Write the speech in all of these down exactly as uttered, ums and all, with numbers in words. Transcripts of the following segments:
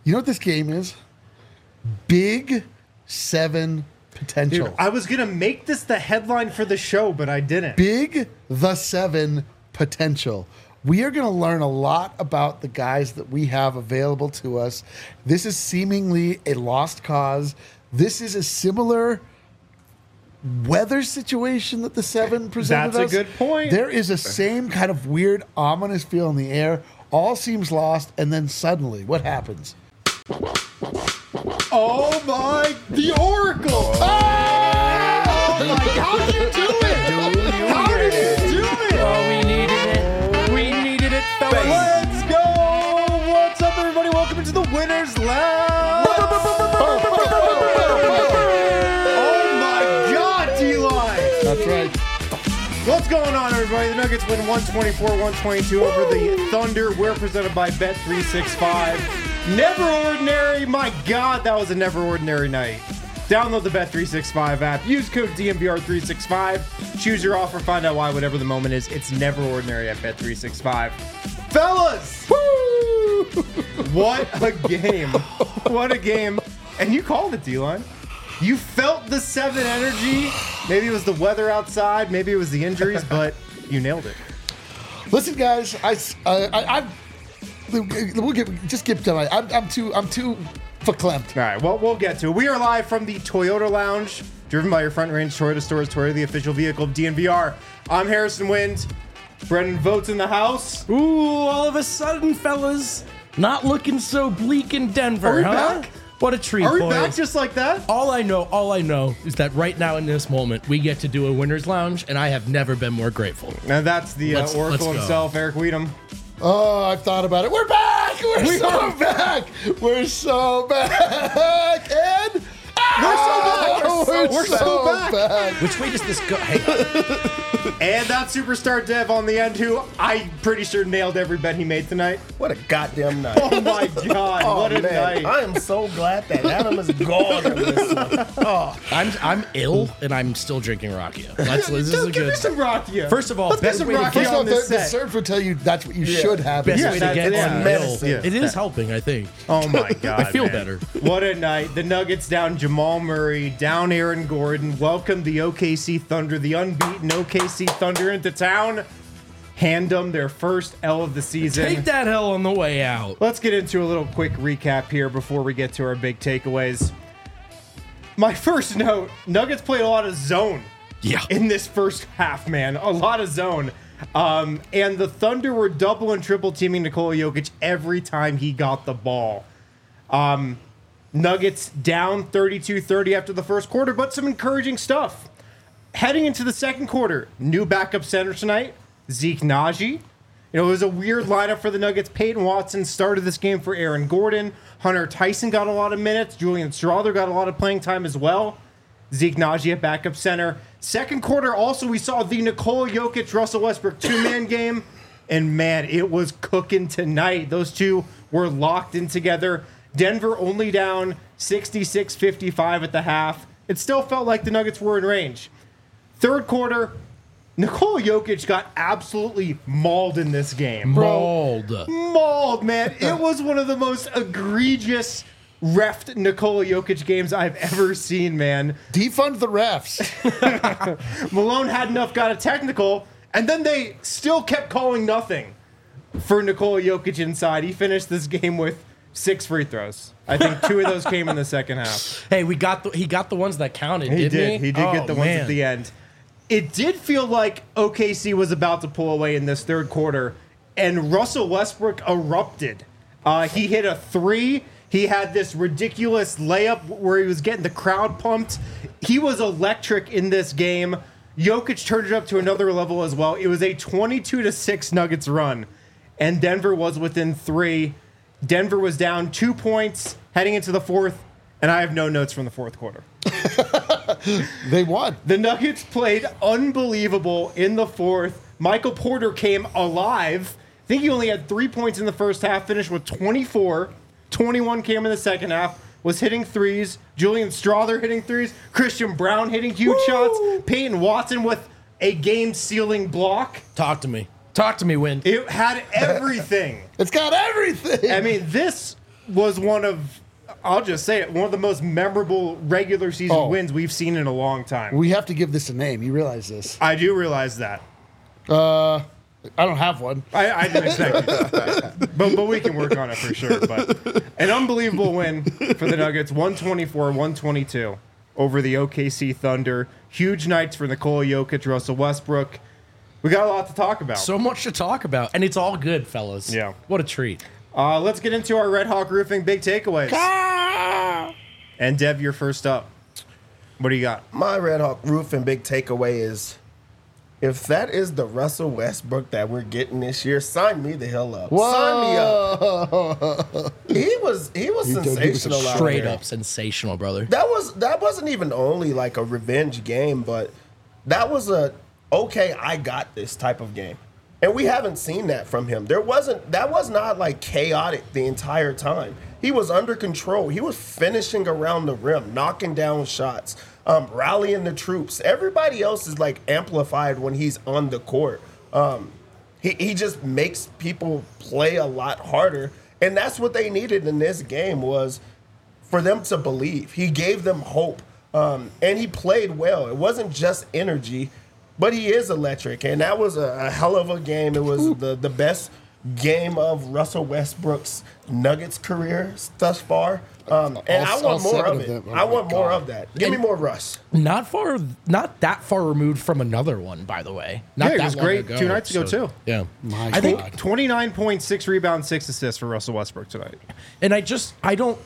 You know what this game is? Big Seven potential. Dude, I was going to make this the headline for the show, but I didn't. Big the Seven potential. We are going to learn a lot about the guys that we have available to us. This is seemingly a lost cause. This is a similar weather situation that the Seven presented That's us. a good point. There is a same kind of weird, ominous feel in the air. All seems lost, and then suddenly, what happens? Oh my, the Oracle! Oh, oh my, how did you do it? How did you do it? Oh, we needed it. We needed it, fellas. Let's go! What's up, everybody? Welcome into the Winners Lounge. Oh my God, D-Line! That's right. What's going on, everybody? The Nuggets win one twenty-four one twenty-two over the Thunder. We're presented by Bet three sixty-five. Never ordinary. My God, that was a never ordinary night. Download the Bet three sixty-five app. Use code D M V R three sixty-five. Choose your offer. Find out why. Whatever the moment is, it's never ordinary at Bet three sixty-five. Fellas! Woo! What a game. What a game. And you called it, D-Line. You felt the Seven energy. Maybe it was the weather outside. Maybe it was the injuries, but you nailed it. Listen, guys, I, uh, I, I, we'll get just get to my. I'm, I'm too, I'm too verklempt. All right, well, we'll get to it. We are live from the Toyota Lounge, driven by your Front Range Toyota stores. Toyota, the official vehicle of D N V R. I'm Harrison Wind. Brendan Votes in the house. Ooh, all of a sudden, fellas, not looking so bleak in Denver, Are we huh? back? What a treat, Are we boys. back just like that? all I know, all I know is that right now in this moment, we get to do a winner's lounge, and I have never been more grateful. And that's the uh, Let's- Oracle let's go. himself, Eric Weedham. Oh, I've thought about it. We're back. We're We so are. back. We're so back. And We're so back. Oh, We're so- we're so back. back. Which way does this go? Hey, And that superstar Dev on the end, who I'm pretty sure nailed every bet he made tonight. What a goddamn night. Oh my God, Oh, what a man. night. I am so glad that Adam is gone on this one. Oh, I'm I'm ill, and I'm still drinking Rakia. That's, this is Just a give me good. some Rakia. First of all, Let's get best some way to Rakia get- First of all, on the, this the set. surge would tell you that's what you should have. Best Yeah, way to that's- get yeah. on medicine. ill. It is Yeah. helping, I think. Oh my God. I feel man. better. What a night. The Nuggets down Jamal Murray, down Aaron Gordon. Welcome the O K C Thunder, the unbeaten O K C Thunder into town. Hand them their first L of the season. Take that hell on the way out. Let's get into a little quick recap here before we get to our big takeaways. My first note, Nuggets played a lot of zone Yeah. in this first half, man. A lot of zone. Um, and the Thunder were double and triple teaming Nikola Jokic every time he got the ball. Um, Nuggets down thirty-two thirty after the first quarter, but some encouraging stuff. Heading into the second quarter, new backup center tonight, Zeke Naji. You know, it was a weird lineup for the Nuggets. Peyton Watson started this game for Aaron Gordon. Hunter Tyson got a lot of minutes. Julian Strawther got a lot of playing time as well. Zeke Naji at backup center. Second quarter, also, we saw the Nikola Jokic, Russell Westbrook two-man game. And, man, it was cooking tonight. Those two were locked in together. Denver only down sixty-six fifty-five at the half. It still felt like the Nuggets were in range. Third quarter, Nikola Jokic got absolutely mauled in this game. Mauled. Mauled, man. It was one of the most egregious refed Nikola Jokic games I've ever seen, man. Defund the refs. Malone had enough, got a technical, and then they still kept calling nothing for Nikola Jokic inside. He finished this game with six free throws. I think two of those came in the second half. Hey, we got the he got the ones that counted. He didn't did. he? He did Oh, get the ones man. at the end. It did feel like O K C was about to pull away in this third quarter, and Russell Westbrook erupted. Uh, he hit a three. He had this ridiculous layup where he was getting the crowd pumped. He was electric in this game. Jokic turned it up to another level as well. It was a twenty-two to six Nuggets run, and Denver was within three. Denver was down two points heading into the fourth, and I have no notes from the fourth quarter. They won. The Nuggets played unbelievable in the fourth. Michael Porter came alive. I think he only had three points in the first half, finished with twenty-four. twenty-one came in the second half, was hitting threes. Julian Strawther hitting threes. Christian Brown hitting huge Woo! shots. Peyton Watson with a game-sealing block. Talk to me. Talk to me, Win. It had everything. It's got everything. I mean, this was one of, I'll just say it, one of the most memorable regular season Oh. wins we've seen in a long time. We have to give this a name. You realize this? I do realize that. Uh, I don't have one. I, I didn't expect you to. But, but we can work on it for sure. But an unbelievable win for the Nuggets, one twenty-four one twenty-two over the O K C Thunder. Huge nights for Nikola Jokic, Russell Westbrook. We got a lot to talk about. So much to talk about, and it's all good, fellas. Yeah. What a treat. Uh, let's get into our Red Hawk Roofing big takeaways. And Dev, you're first up. What do you got? My Red Hawk Roof and big takeaway is, if that is the Russell Westbrook that we're getting this year, sign me the hell up. Sign me up. He was he was He did- he was sensational out Straight there. up sensational, brother. That was that wasn't even only like a revenge game, but that was a okay, I got this type of game. And we haven't seen that from him. There wasn't that was not like chaotic the entire time. He was under control. He was finishing around the rim, knocking down shots, um, rallying the troops. Everybody else is like amplified when he's on the court. Um, he, he just makes people play a lot harder. And that's what they needed in this game was for them to believe. He gave them hope. Um, and he played well. It wasn't just energy, but he is electric. And that was a, a hell of a game. It was the, the best game of Russell Westbrook's Nuggets career thus far. Um, and All- I want all more seven of of it. them. Oh I my want more God. of that. Give me more Russ. Not far, not that far removed from another one, by the way. Not Yeah, it that was long great ago, two nights ago, too. Yeah, My I think, God. twenty-nine points, six rebounds, six assists for Russell Westbrook tonight. and I just, I don't.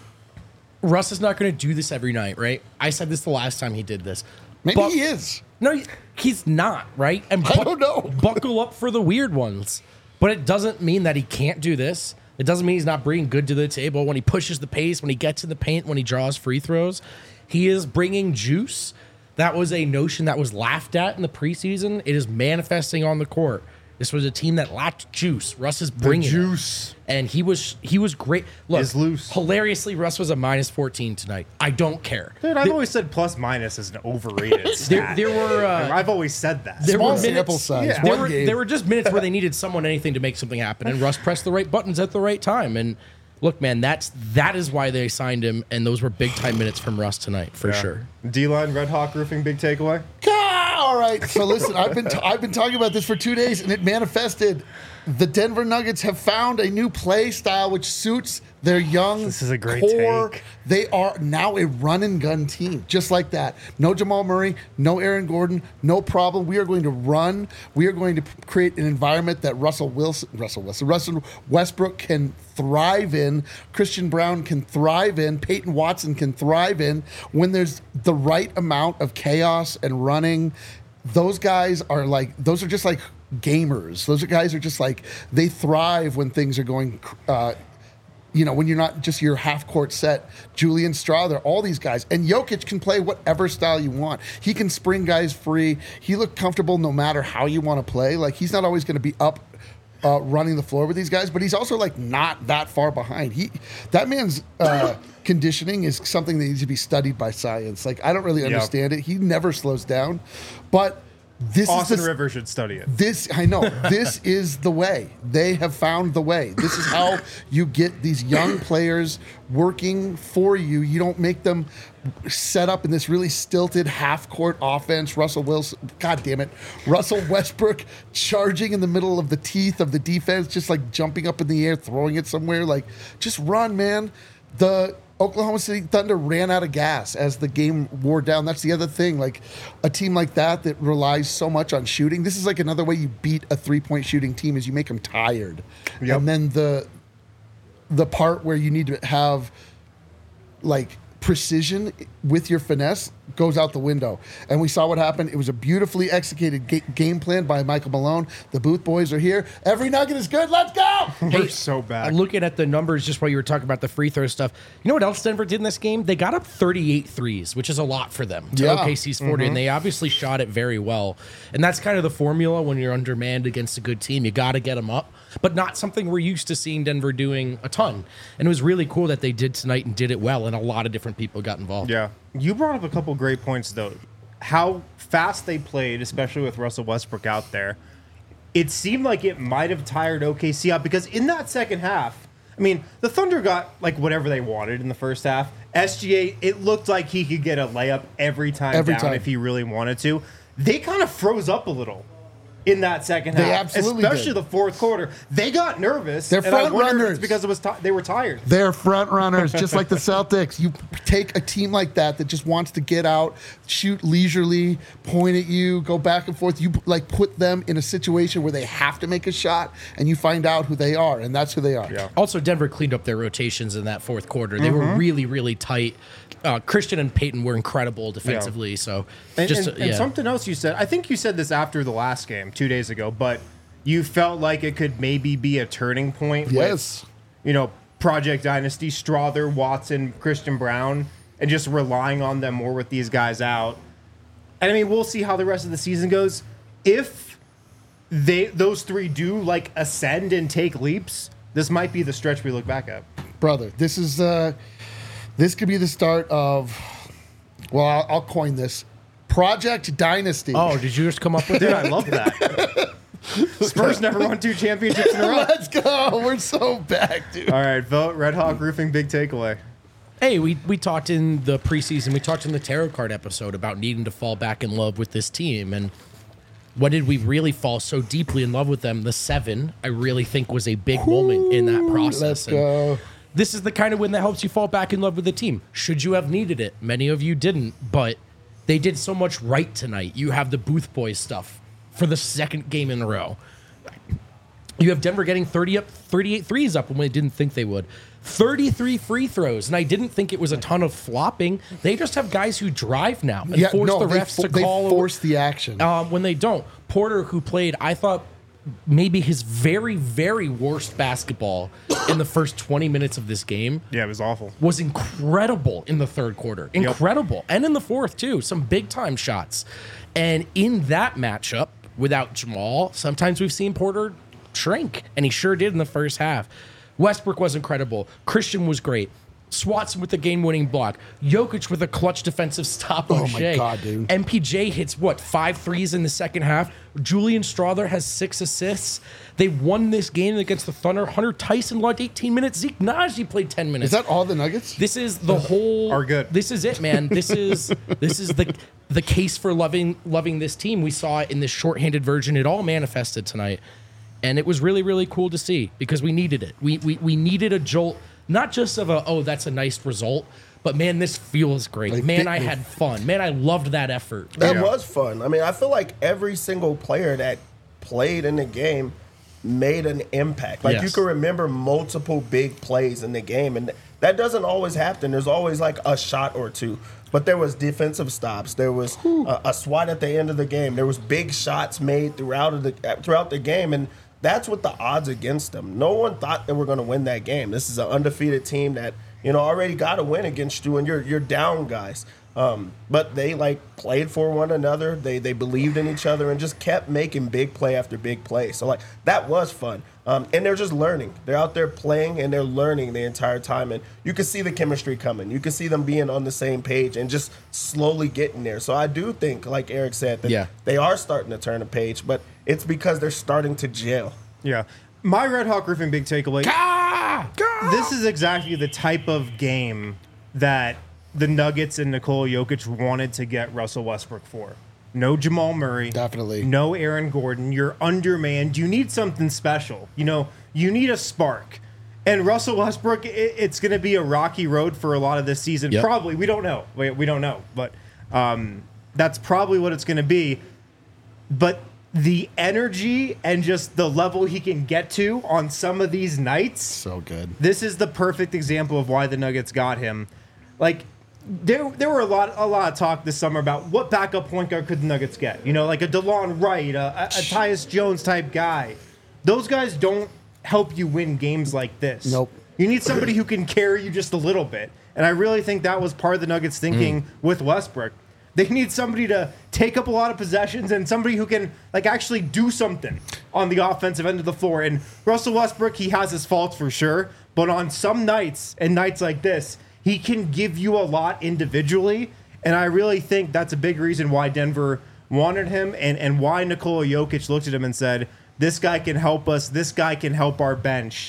Russ is not going to do this every night, right? I said this the last time he did this. Maybe But- he is. No, he- he's not, right? And I don't know. buckle up for the weird ones. But it doesn't mean that he can't do this. It doesn't mean he's not bringing good to the table when he pushes the pace, when he gets in the paint, when he draws free throws. He is bringing juice. That was a notion that was laughed at in the preseason. It is manifesting on the court. This was a team that lacked juice. Russ is bringing it. juice. And he was he was great. Look, Is loose. hilariously, Russ was a minus fourteen tonight. I don't care. Dude, I've always said plus minus is an overrated There, stat. there were uh, I've always said that. there Small were minutes, sample size. Yeah. There One were, game. there were just minutes where they needed someone, anything to make something happen, and Russ pressed the right buttons at the right time. And look, man, that's that is why they signed him, and those were big time minutes from Russ tonight for sure. D-line, Red Hawk Roofing, big takeaway. Ah, all right. So listen, I've been t- I've been talking about this for two days, and it manifested. The Denver Nuggets have found a new play style which suits their young This is a great core. take. They are now a run and gun team, just like that. No Jamal Murray, no Aaron Gordon, no problem. We are going to run. We are going to p- create an environment that Russell Wilson, Russell Wilson, Russell Westbrook can thrive in. Christian Brown can thrive in. Peyton Watson can thrive in when there's the right amount of chaos and running. Those guys are like, those are just like gamers. Those are guys are just like, they thrive when things are going, uh, you know, when you're not just your half court set. Julian Strawther, all these guys. And Jokic can play whatever style you want. He can spring guys free. He looked comfortable no matter how you want to play. Like, he's not always going to be up uh, running the floor with these guys, but he's also like not that far behind. He, that man's uh, conditioning is something that needs to be studied by science. Like, I don't really understand it. He never slows down, but this Austin is the, Rivers should study it. this I know. This is the way. They have found the way. This is how you get these young players working for you. You don't make them set up in this really stilted half-court offense. Russell Wilson, God damn it, Russell Westbrook charging in the middle of the teeth of the defense, just like jumping up in the air, throwing it somewhere. Like, just run, man. The Oklahoma City Thunder ran out of gas as the game wore down. That's the other thing. Like, a team like that that relies so much on shooting. This is like another way you beat a three-point shooting team is you make them tired. Yep. And then the the part where you need to have like precision with your finesse goes out the window. And we saw what happened. It was a beautifully executed ga- game plan by Michael Malone. The Booth boys are here. Every nugget is good. Let's go. We're so bad. Looking at the numbers, just while you were talking about the free throw stuff, you know what else Denver did in this game? They got up thirty-eight threes, which is a lot for them to Yeah. O K C's forty, and they obviously shot it very well. And that's kind of the formula when you're undermanned against a good team. You got to get them up, but not something we're used to seeing Denver doing a ton. And it was really cool that they did tonight and did it well, and a lot of different people got involved. Yeah. You brought up a couple great points, though. How fast they played, especially with Russell Westbrook out there. It seemed like it might have tired O K C out because in that second half, I mean, the Thunder got like whatever they wanted in the first half. S G A, it looked like he could get a layup every time Every down time. if he really wanted to. They kind of froze up a little in that second They half, absolutely especially did. the fourth quarter. They got nervous. They're and I front wonder if runners. it's because it was ti they were tired. They're front runners, just like the Celtics. You take a team like that that just wants to get out, shoot leisurely, point at you, go back and forth. You like put them in a situation where they have to make a shot, and you find out who they are, and that's who they are. Yeah. Also, Denver cleaned up their rotations in that fourth quarter. They Mm-hmm. were really, really tight. Uh, Christian and Peyton were incredible defensively. So, And, just and, uh, and yeah. something else you said, I think you said this after the last game two days ago, but you felt like it could maybe be a turning point. Yes. With, you know, Project Dynasty, Strother, Watson, Christian Brown, and just relying on them more with these guys out. And I mean, we'll see how the rest of the season goes. If they those three do like ascend and take leaps, this might be the stretch we look back at. Brother, this is uh, this could be the start of. Well, I'll, I'll coin this Project Dynasty. Oh, did you just come up with Dude, that? I love that. Spurs never won two championships in a row. Let's go. We're so back, dude. All right, vote Red Hawk Roofing, big takeaway. Hey, we, we talked in the preseason, we talked in the tarot card episode about needing to fall back in love with this team. And when did we really fall so deeply in love with them? The seven, I really think, was a big moment in that process. Let's And go. this is the kind of win that helps you fall back in love with the team. Should you have needed it? Many of you didn't, but they did so much right tonight. You have the Booth Boys stuff for the second game in a row. You have Denver getting thirty up, thirty-eight threes up when they didn't think they would. thirty-three free throws, and I didn't think it was a ton of flopping. They just have guys who drive now and Yeah, force no, the they, refs fo- to they call force the action. um, when they don't. Porter, who played, I thought maybe his very, very worst basketball in the first twenty minutes of this game, Yeah, it was awful. was incredible in the third quarter. Incredible. And in the fourth, too. Some big time shots. And in that matchup, without Jamal, sometimes we've seen Porter shrink, and he sure did in the first half. Westbrook was incredible. Christian was great. Swatson with the game-winning block. Jokic with a clutch defensive stop on Oh my Shea. God, dude. M P J hits, what, five threes in the second half? Julian Strother has six assists. They won this game against the Thunder. Hunter Tyson logged eighteen minutes. Zeke Naji played ten minutes. Is that all the Nuggets? This is the whole. Are good. This is it, man. This is this is the the case for loving loving this team. We saw it in this shorthanded version. It all manifested tonight, and it was really really cool to see because we needed it. We we we needed a jolt, not just of a oh that's a nice result, but man this feels great. Like, man, they- I had fun. Man, I loved that effort. That Yeah. was fun. I mean, I feel like every single player that played in the game made an impact. Like Yes. you can remember multiple big plays in the game, and that doesn't always happen. There's always like a shot or two. But there was defensive stops. There was a, a swat at the end of the game. There was big shots made throughout of the throughout the game, and that's what the odds against them. No one thought they were going to win that game. This is an undefeated team that you know already got a win against you, and you're you're down guys. Um, but they like played for one another. They they believed in each other and just kept making big play after big play. So like that was fun. Um, and they're just learning. They're out there playing and they're learning the entire time. And you can see the chemistry coming. You can see them being on the same page and just slowly getting there. So I do think, like Eric said, that Yeah. they are starting to turn a page, but it's because they're starting to gel. Yeah. My Red Hawk Roofing big takeaway. This is exactly the type of game that the Nuggets and Nikola Jokic wanted to get Russell Westbrook for. No Jamal Murray. Definitely. No Aaron Gordon. You're undermanned. You need something special. You know, you need a spark. And Russell Westbrook, it, it's going to be a rocky road for a lot of this season. Yep. Probably. We don't know. We, we don't know. But um, that's probably what it's going to be. But the energy and just the level he can get to on some of these nights, So good. this is the perfect example of why the Nuggets got him. Like, there there were a lot a lot of talk this summer about what backup point guard could the Nuggets get. You know, like a DeLon Wright, a, a, a Tyus Jones type guy. Those guys don't help you win games like this. Nope. You need somebody who can carry you just a little bit. And I really think that was part of the Nuggets thinking with Westbrook. They need somebody to take up a lot of possessions and somebody who can like actually do something on the offensive end of the floor. And Russell Westbrook, he has his faults for sure, but on some nights and nights like this, he can give you a lot individually. And I really think that's a big reason why Denver wanted him and, and why Nikola Jokic looked at him and said, this guy can help us. This guy can help our bench.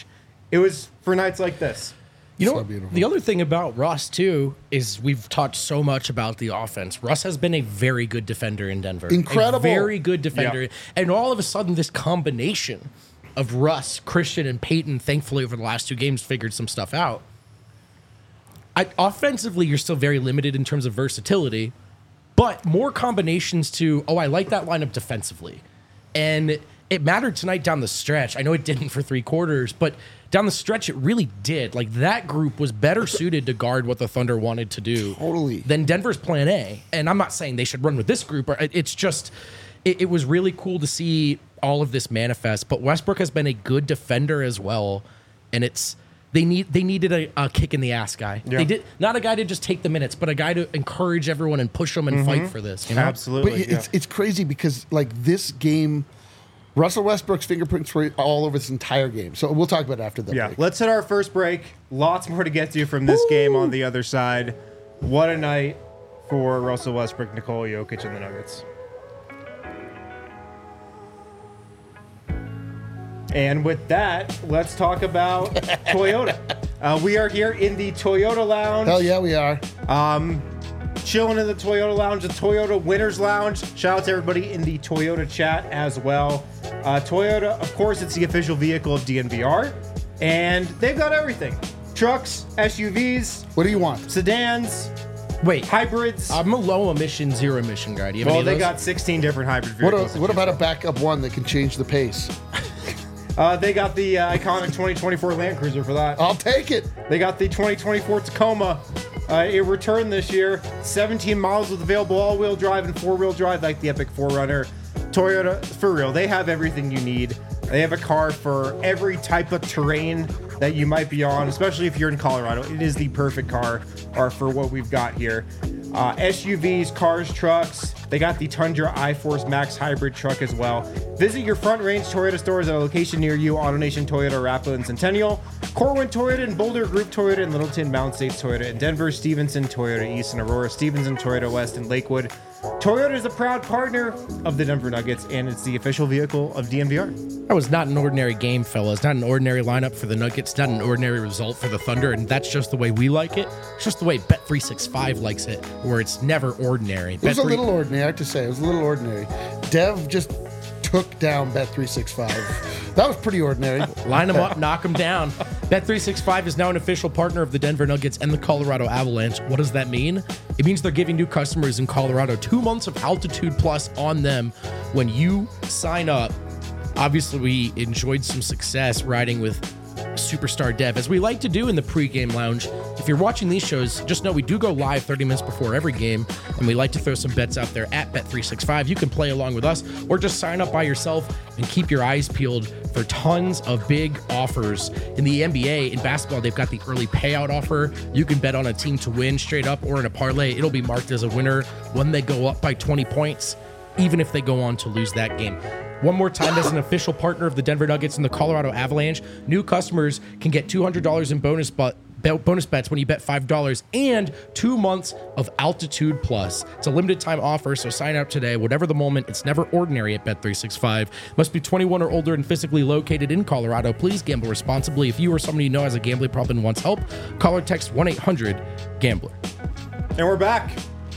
It was for nights like this. You know, So what? beautiful. The other thing about Russ, too, is we've talked so much about the offense. Russ has been a very good defender in Denver. Incredible. A very good defender. Yeah. And all of a sudden, this combination of Russ, Christian, and Peyton, thankfully, over the last two games, figured some stuff out. I, offensively, you're still very limited in terms of versatility, but more combinations to, oh, I like that lineup defensively. And it mattered tonight down the stretch. I know it didn't for three quarters, but down the stretch, it really did. Like, that group was better suited to guard what the Thunder wanted to do Totally. than Denver's plan A. And I'm not saying they should run with this group. Or it's just, it, it was really cool to see all of this manifest. But Westbrook has been a good defender as well. And it's, they need they needed a, a kick in the ass guy. Yeah. They did not a guy to just take the minutes, but a guy to encourage everyone and push them and fight for this. You know? Absolutely. But it's it's crazy because like this game, Russell Westbrook's fingerprints were all over this entire game. So we'll talk about it after that. Yeah, break. let's hit our first break. Lots more to get to from this game on the other side. What a night for Russell Westbrook, Nikola Jokic, and the Nuggets. And with that, let's talk about Toyota. Uh, we are here in the Toyota Lounge. Hell yeah, we are. Chilling in the Toyota Lounge, the Toyota Winners Lounge. Shout out to everybody in the Toyota chat as well. Uh, Toyota, of course, it's the official vehicle of D N V R, and they've got everything: trucks, S U Vs, What do you want? sedans, Wait, hybrids. I'm a low emission, zero emission guy. Do you have well, any of they those? got sixteen different hybrid What, vehicles. a, to what choose about a from. backup one that can change the pace? Uh, they got the uh, iconic twenty twenty-four Land Cruiser for that. I'll take it. They got the twenty twenty-four Tacoma. Uh, it returned this year. seventeen models with available all-wheel drive and four-wheel drive, like the Epic four runner. Toyota, for real, they have everything you need. They have a car for every type of terrain that you might be on, especially if you're in Colorado. It is the perfect car or for what we've got here. Uh, S U Vs, cars, trucks. They got the Tundra iForce Max hybrid truck as well. Visit your Front Range Toyota stores at a location near you. AutoNation Toyota, Arapahoe and Centennial. Corwin Toyota and Boulder Group Toyota in Littleton, Mountain States Toyota in Denver. Stevenson Toyota East and Aurora. Stevenson Toyota West in Lakewood. Toyota is a proud partner of the Denver Nuggets, and it's the official vehicle of D N V R. That was not an ordinary game, fellas. Not an ordinary lineup for the Nuggets. Not an ordinary result for the Thunder. And that's just the way we like it. It's just the way Bet three sixty-five likes it, where it's never ordinary. It was a little ordinary, I have to say. It was a little ordinary. Dev just took down Bet three sixty-five. That was pretty ordinary. Line them up, knock them down. Bet three sixty-five is now an official partner of the Denver Nuggets and the Colorado Avalanche. What does that mean? It means they're giving new customers in Colorado two months of Altitude Plus on them when you sign up. Obviously, we enjoyed some success riding with Superstar Dev, as we like to do in the pregame lounge. If you're watching these shows, just know we do go live thirty minutes before every game, and we like to throw some bets out there at Bet three sixty-five. You can play along with us, or just sign up by yourself and keep your eyes peeled for tons of big offers. In the N B A, in basketball, they've got the early payout offer. You can bet on a team to win straight up or in a parlay. It'll be marked as a winner when they go up by twenty points, even if they go on to lose that game. One more time, as an official partner of the Denver Nuggets and the Colorado Avalanche, new customers can get two hundred dollars in bonus but bonus bets when you bet five dollars and two months of Altitude Plus. It's a limited time offer, so sign up today. Whatever the moment, it's never ordinary at Bet three sixty-five. Must be twenty-one or older and physically located in Colorado. Please gamble responsibly. If you or somebody you know has a gambling problem and wants help, call or text one eight hundred gambler. And we're back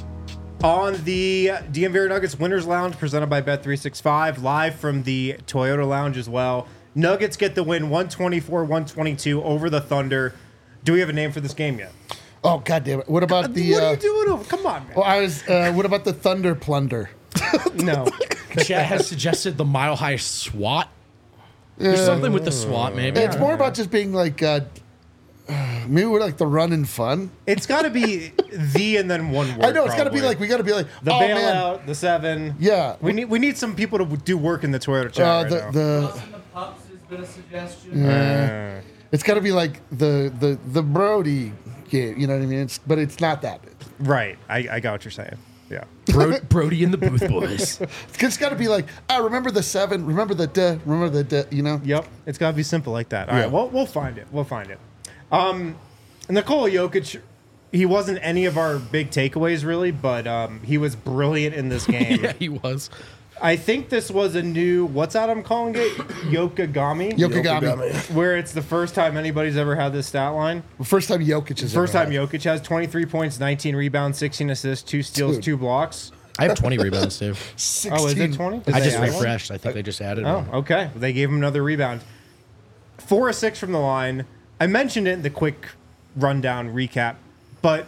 on the D N V R Nuggets Winners Lounge, presented by Bet three sixty-five, live from the Toyota Lounge as well. Nuggets get the win one twenty-four one twenty-two over the Thunder. Do we have a name for this game yet? Oh, God damn it. What about the. what uh, are you doing over? Come on, man. Well, I was. Uh, what about the Thunder Plunder? No. Chat has suggested the Mile High SWAT. There's something with the SWAT, maybe. It's more about just being like. Uh, maybe we're like the run and fun. It's got to be the and then one word. I know it's got to be probably. like we got to be like the oh, bailout, man. the seven. Yeah. We need we need some people to do work in the Toyota chat Uh, right the now. the Tossing the pups has been a suggestion. Uh, it's got to be like the the the Brody game. You know what I mean? It's but it's not that. right. I, I got what you're saying. Yeah. Bro- Brody and the Booth Boys. It's just got to be like ah, remember the seven, remember the duh, remember the duh, you know. Yep. It's got to be simple like that. All Yeah. right. Well, we'll find it. We'll find it. Um, Nikola Jokic, he wasn't any of our big takeaways really, but um, he was brilliant in this game. Yeah, he was. I think this was a new, what's that I'm calling it? Yokogami? Yokogami. Where it's the first time anybody's ever had this stat line. First time Jokic has First ever time had. Jokic has twenty-three points, nineteen rebounds, sixteen assists, two steals, Dude. two blocks. I have twenty rebounds too. sixteen. Oh, is it twenty? Did I they just add one? refreshed. I think they just added Oh, one. okay. They gave him another rebound. Four or six from the line. I mentioned it in the quick rundown recap, but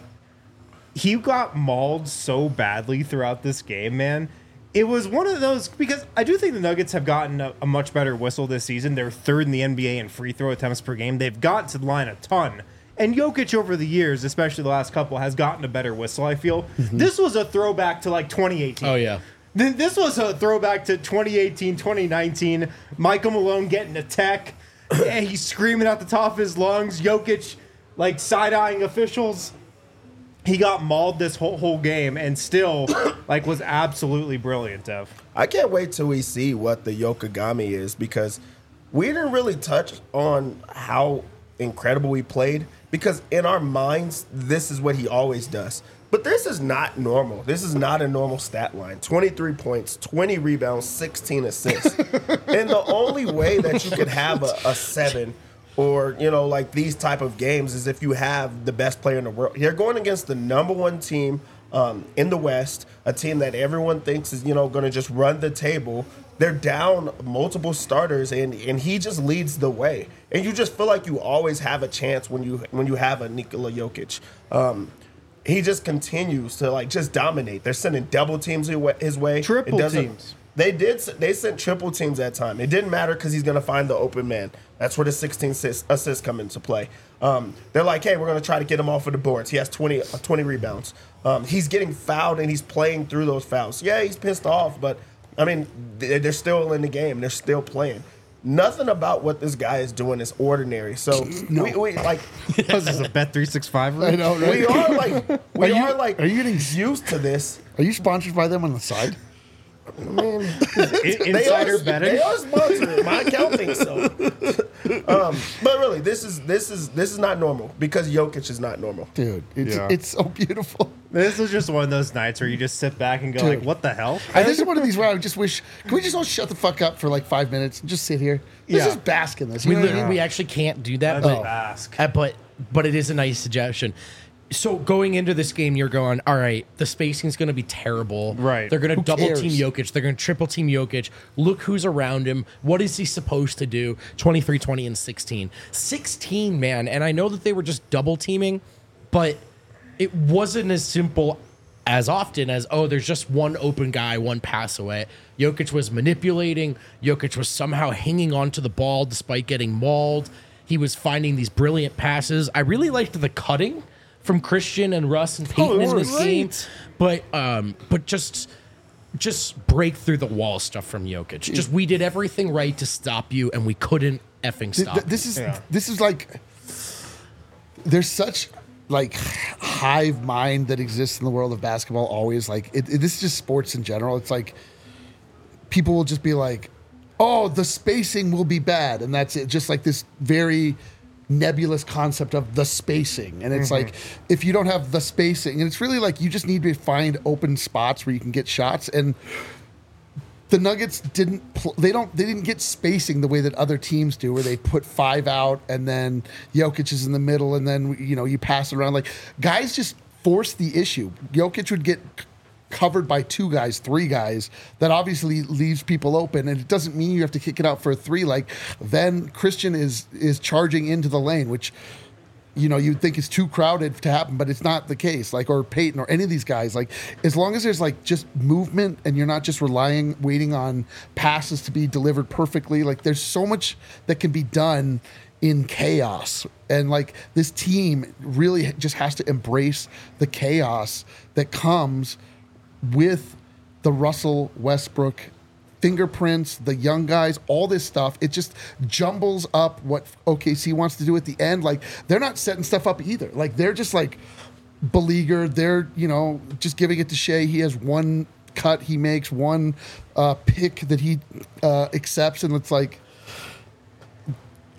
he got mauled so badly throughout this game, man. It was one of those, because I do think the Nuggets have gotten a, a much better whistle this season. They're third in the N B A in free throw attempts per game. They've gotten to the line a ton. And Jokic over the years, especially the last couple, has gotten a better whistle, I feel. This was a throwback to like twenty eighteen. Oh, yeah. Th- This was a throwback to twenty eighteen, twenty nineteen. Michael Malone getting a tech. And he's screaming at the top of his lungs. Jokic, like, side-eyeing officials. He got mauled this whole, whole game and still, like, was absolutely brilliant, Dev. I can't wait till we see what the Yokogami is, because we didn't really touch on how incredible he played, because in our minds, this is what he always does. But this is not normal. This is not a normal stat line. twenty-three points, twenty rebounds, sixteen assists. And the only way that you could have a, a seven or, you know, like these type of games is if you have the best player in the world. You're going against the number one team um, in the West, a team that everyone thinks is, you know, going to just run the table. They're down multiple starters, and, and he just leads the way. And you just feel like you always have a chance when you when you have a Nikola Jokic. Um, he just continues to, like, just dominate. They're sending double teams his way. Triple It doesn't- teams. They did. They sent triple teams that time. It didn't matter because he's going to find the open man. That's where the sixteen assists, assists come into play. Um, they're like, hey, we're going to try to get him off of the boards. He has twenty, uh, twenty rebounds. Um, he's getting fouled, and he's playing through those fouls. Yeah, he's pissed off, but, I mean, they- they're still in the game. They're still playing. Nothing about what this guy is doing is ordinary. So, No. we, we, like, Was this a Bet three sixty-five? I know, right? we are, like, we Are you- are, like, are you getting- used to this. Are you sponsored by them on the side? They Insider are, betting? They are sponsored. My account thinks so. um, but really, this is this is this is not normal because Jokic is not normal. Dude, it's Yeah. it's so beautiful. This was just one of those nights where you just sit back and go, Dude. like, what the hell? And this is one of these where I just wish, can we just all shut the fuck up for like five minutes and just sit here? Let's Yeah. just bask in this. You We know what I literally, mean? we actually can't do that, That's but, bask. uh, but but it is a nice suggestion. So going into this game, you're going, all right, the spacing's going to be terrible. Right. They're going to Who double cares? team Jokic. They're going to triple team Jokic. Look who's around him. What is he supposed to do? twenty-three, twenty, and sixteen. sixteen, man. And I know that they were just double teaming, but it wasn't as simple as often as, oh, there's just one open guy, one pass away. Jokic was manipulating. Jokic was somehow hanging onto the ball despite getting mauled. He was finding these brilliant passes. I really liked the cutting from Christian and Russ and Peyton in this game, but um, but just just break through the wall stuff from Jokic. Just we did everything right to stop you, and we couldn't effing Th- stop. th- this you. is Yeah. this is like there's such like hive mind that exists in the world of basketball always. Like it, it- this is just sports in general. It's like people will just be like, oh, the spacing will be bad, and that's it. Just like this very nebulous concept of the spacing, and it's like if you don't have the spacing, and it's really like you just need to find open spots where you can get shots. And the Nuggets didn't pl- they don't they didn't get spacing the way that other teams do, where they put five out and then Jokic is in the middle, and then you know you pass it around. Like guys just force the issue. Jokic would get c- covered by two guys, three guys. That obviously leaves people open, and it doesn't mean you have to kick it out for a three. Like then Christian is is charging into the lane, which you know you'd think is too crowded to happen, but it's not the case. Like or Peyton or any of these guys. Like as long as there's like just movement and you're not just relying, waiting on passes to be delivered perfectly. Like there's so much that can be done in chaos, and like this team really just has to embrace the chaos that comes with the Russell Westbrook fingerprints, the young guys, all this stuff. It just jumbles up what O K C wants to do at the end. Like they're not setting stuff up either. Like they're just like beleaguered. They're, you know, just giving it to Shea. He has one cut he makes, one uh, pick that he uh, accepts, and it's like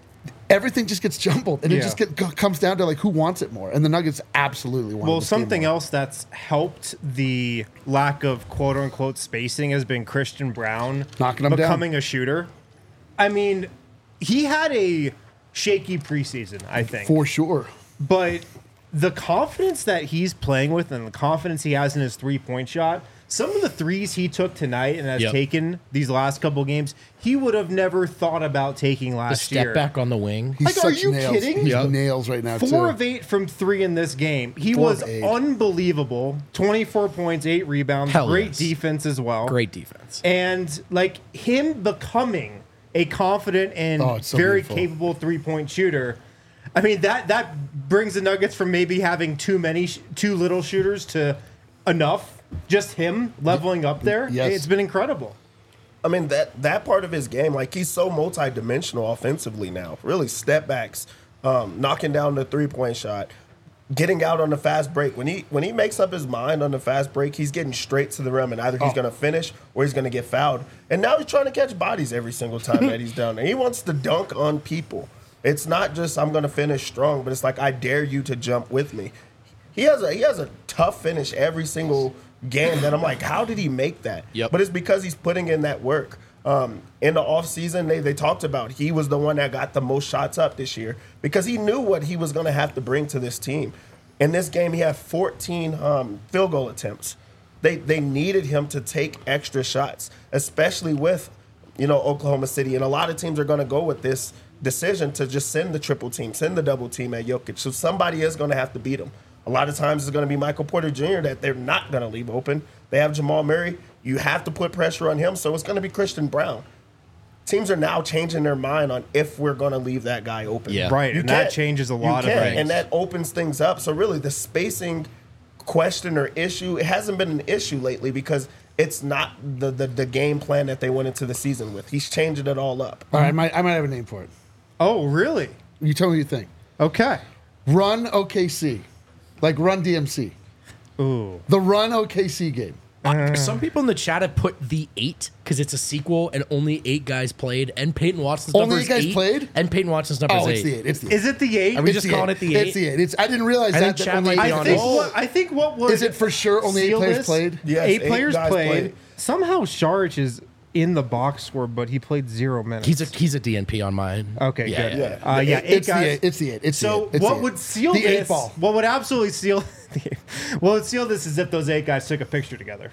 everything just gets jumbled, and it Yeah. just get, co- comes down to like who wants it more. And the Nuggets absolutely want. Well, this game something more. else that's helped the lack of quote unquote spacing has been Christian Brown Knocking 'em down. becoming a shooter. I mean, he had a shaky preseason, I think. for sure. But the confidence that he's playing with and the confidence he has in his three point shot, some of the threes he took tonight and has Yep. taken these last couple games, he would have never thought about taking The last step year. back on the wing. He's Like, are such you nails. kidding? He's Yep. nails right now. Four too. of eight from three in this game. He Four was of eight. unbelievable. twenty-four points, eight rebounds, Hell great yes. defense as well. Great defense. And like him becoming a confident and Oh, it's so very beautiful. capable three-point shooter. I mean, that that brings the Nuggets from maybe having too many, sh- too little shooters to enough. Just him leveling up there. Yes. It's been incredible. I mean, that that part of his game, like he's so multi-dimensional offensively now. Really, step backs, um, knocking down the three-point shot, getting out on the fast break. When he when he makes up his mind on the fast break, he's getting straight to the rim, and either he's Oh. going to finish or he's going to get fouled. And now he's trying to catch bodies every single time that he's down there. He wants to dunk on people. It's not just I'm going to finish strong, but it's like I dare you to jump with me. He has a he has a tough finish every single game that I'm like, how did he make that? Yep. But it's because he's putting in that work. Um, in the offseason, they, they talked about he was the one that got the most shots up this year because he knew what he was going to have to bring to this team. In this game, he had fourteen um, field goal attempts. They they needed him to take extra shots, especially with, you know, Oklahoma City. And a lot of teams are going to go with this decision to just send the triple team, send the double team at Jokic. So somebody is going to have to beat him. A lot of times it's going to be Michael Porter Junior that they're not going to leave open. They have Jamal Murray. You have to put pressure on him, so it's going to be Christian Brown. Teams are now changing their mind on if we're going to leave that guy open. Yeah. Right, You and that can't. changes a You lot of can't, things. and that opens things up. So really, the spacing question or issue, it hasn't been an issue lately because it's not the, the, the game plan that they went into the season with. He's changing it all up. All right, I might, I might have a name for it. Oh, really? You tell me what you think. Okay. Run O K C, like Run D M C. Ooh. The Run O K C game. Some people in the chat have put the eight because it's a sequel and only eight guys played, and Peyton Watson's Only number eight is guys eight, played? and Peyton Watson's number Oh, is it's the eight. eight. It's the eight. Is it the eight? Are we It's just the calling eight. it the eight? It's the eight. It's, I didn't realize I that. think that Chad only- might be I on think it. what I think what was Is it for sure only eight seal players this? played? Yes, eight eight players guys played. played. Somehow Sharich is in the box score, but he played zero minutes. He's a he's a D N P on mine. okay. Yeah, good. yeah. Uh, yeah, eight It's guys. the eight. It's the eight. It's the So eight. It's what the would eight. seal the this? eight ball? What would absolutely seal? what would seal this is if those eight guys took a picture together.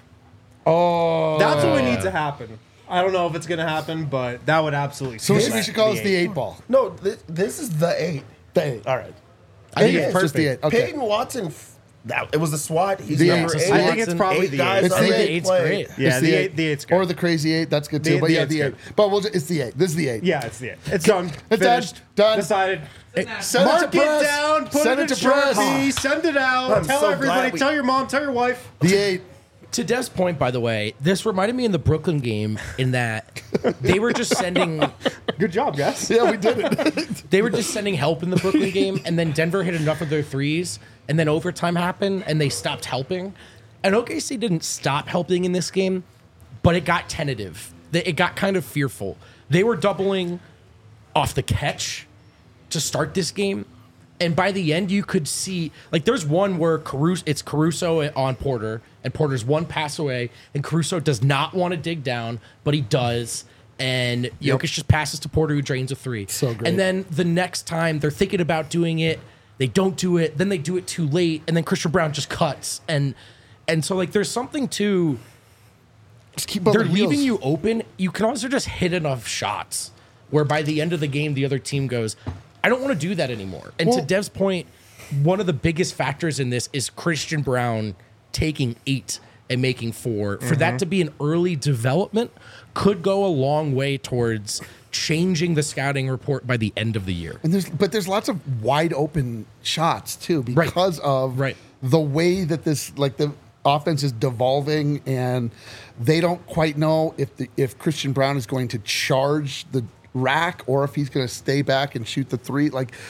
Oh, That's what would need to happen. I don't know if it's going to happen, but that would absolutely. so we seal should, we that, should call this the eight. eight ball. No, this, this is the eight. The eight. All right. I think Eight it's is just the perfect. eight. Okay. Peyton Watson, f- that, it was the SWAT. He's The number eight. eight. I think it's probably eight the guys eight. It's on the the eight. Eight's play. great. Yeah, It's the eight. The eight's good. Or the crazy eight. That's good too. The- but the yeah, eight's the eight. good. But we'll just, it's the eight. This is the eight. Yeah, it's the eight. It's done. It's done. Finished. Done. Decided. Send Mark it it to press. down. Put Send it it in to press. Sharpie. Send it out. I'm tell so everybody. glad we- Tell your mom. Tell your wife. The eight. To Dev's point, by the way, this reminded me in the Brooklyn game in that they were just sending Good job, guys. Yeah, we did it. they were just sending help in the Brooklyn game, and then Denver hit enough of their threes, and then overtime happened, and they stopped helping. And O K C didn't stop helping in this game, but it got tentative. They- It got kind of fearful. They were doubling off the catch to start this game. And by the end, you could see, like, there's one where Caruso, it's Caruso on Porter, and Porter's one pass away, and Caruso does not want to dig down, but he does. And Jokic just passes to Porter, who drains a three. So great. And then the next time they're thinking about doing it, they don't do it. Then they do it too late, and then Christian Brown just cuts. And and so, like, there's something to, Just keep on they're the heels. leaving you open. You can also just hit enough shots where by the end of the game, the other team goes, I don't want to do that anymore. And Well- to Dev's point, one of the biggest factors in this is Christian Brown taking eight and making four. For that to be an early development could go a long way towards changing the scouting report by the end of the year. And there's but there's lots of wide open shots too because of Right. the way that this like the offense is devolving, and they don't quite know if the if Christian Brown is going to charge the rack or if he's going to stay back and shoot the three. Like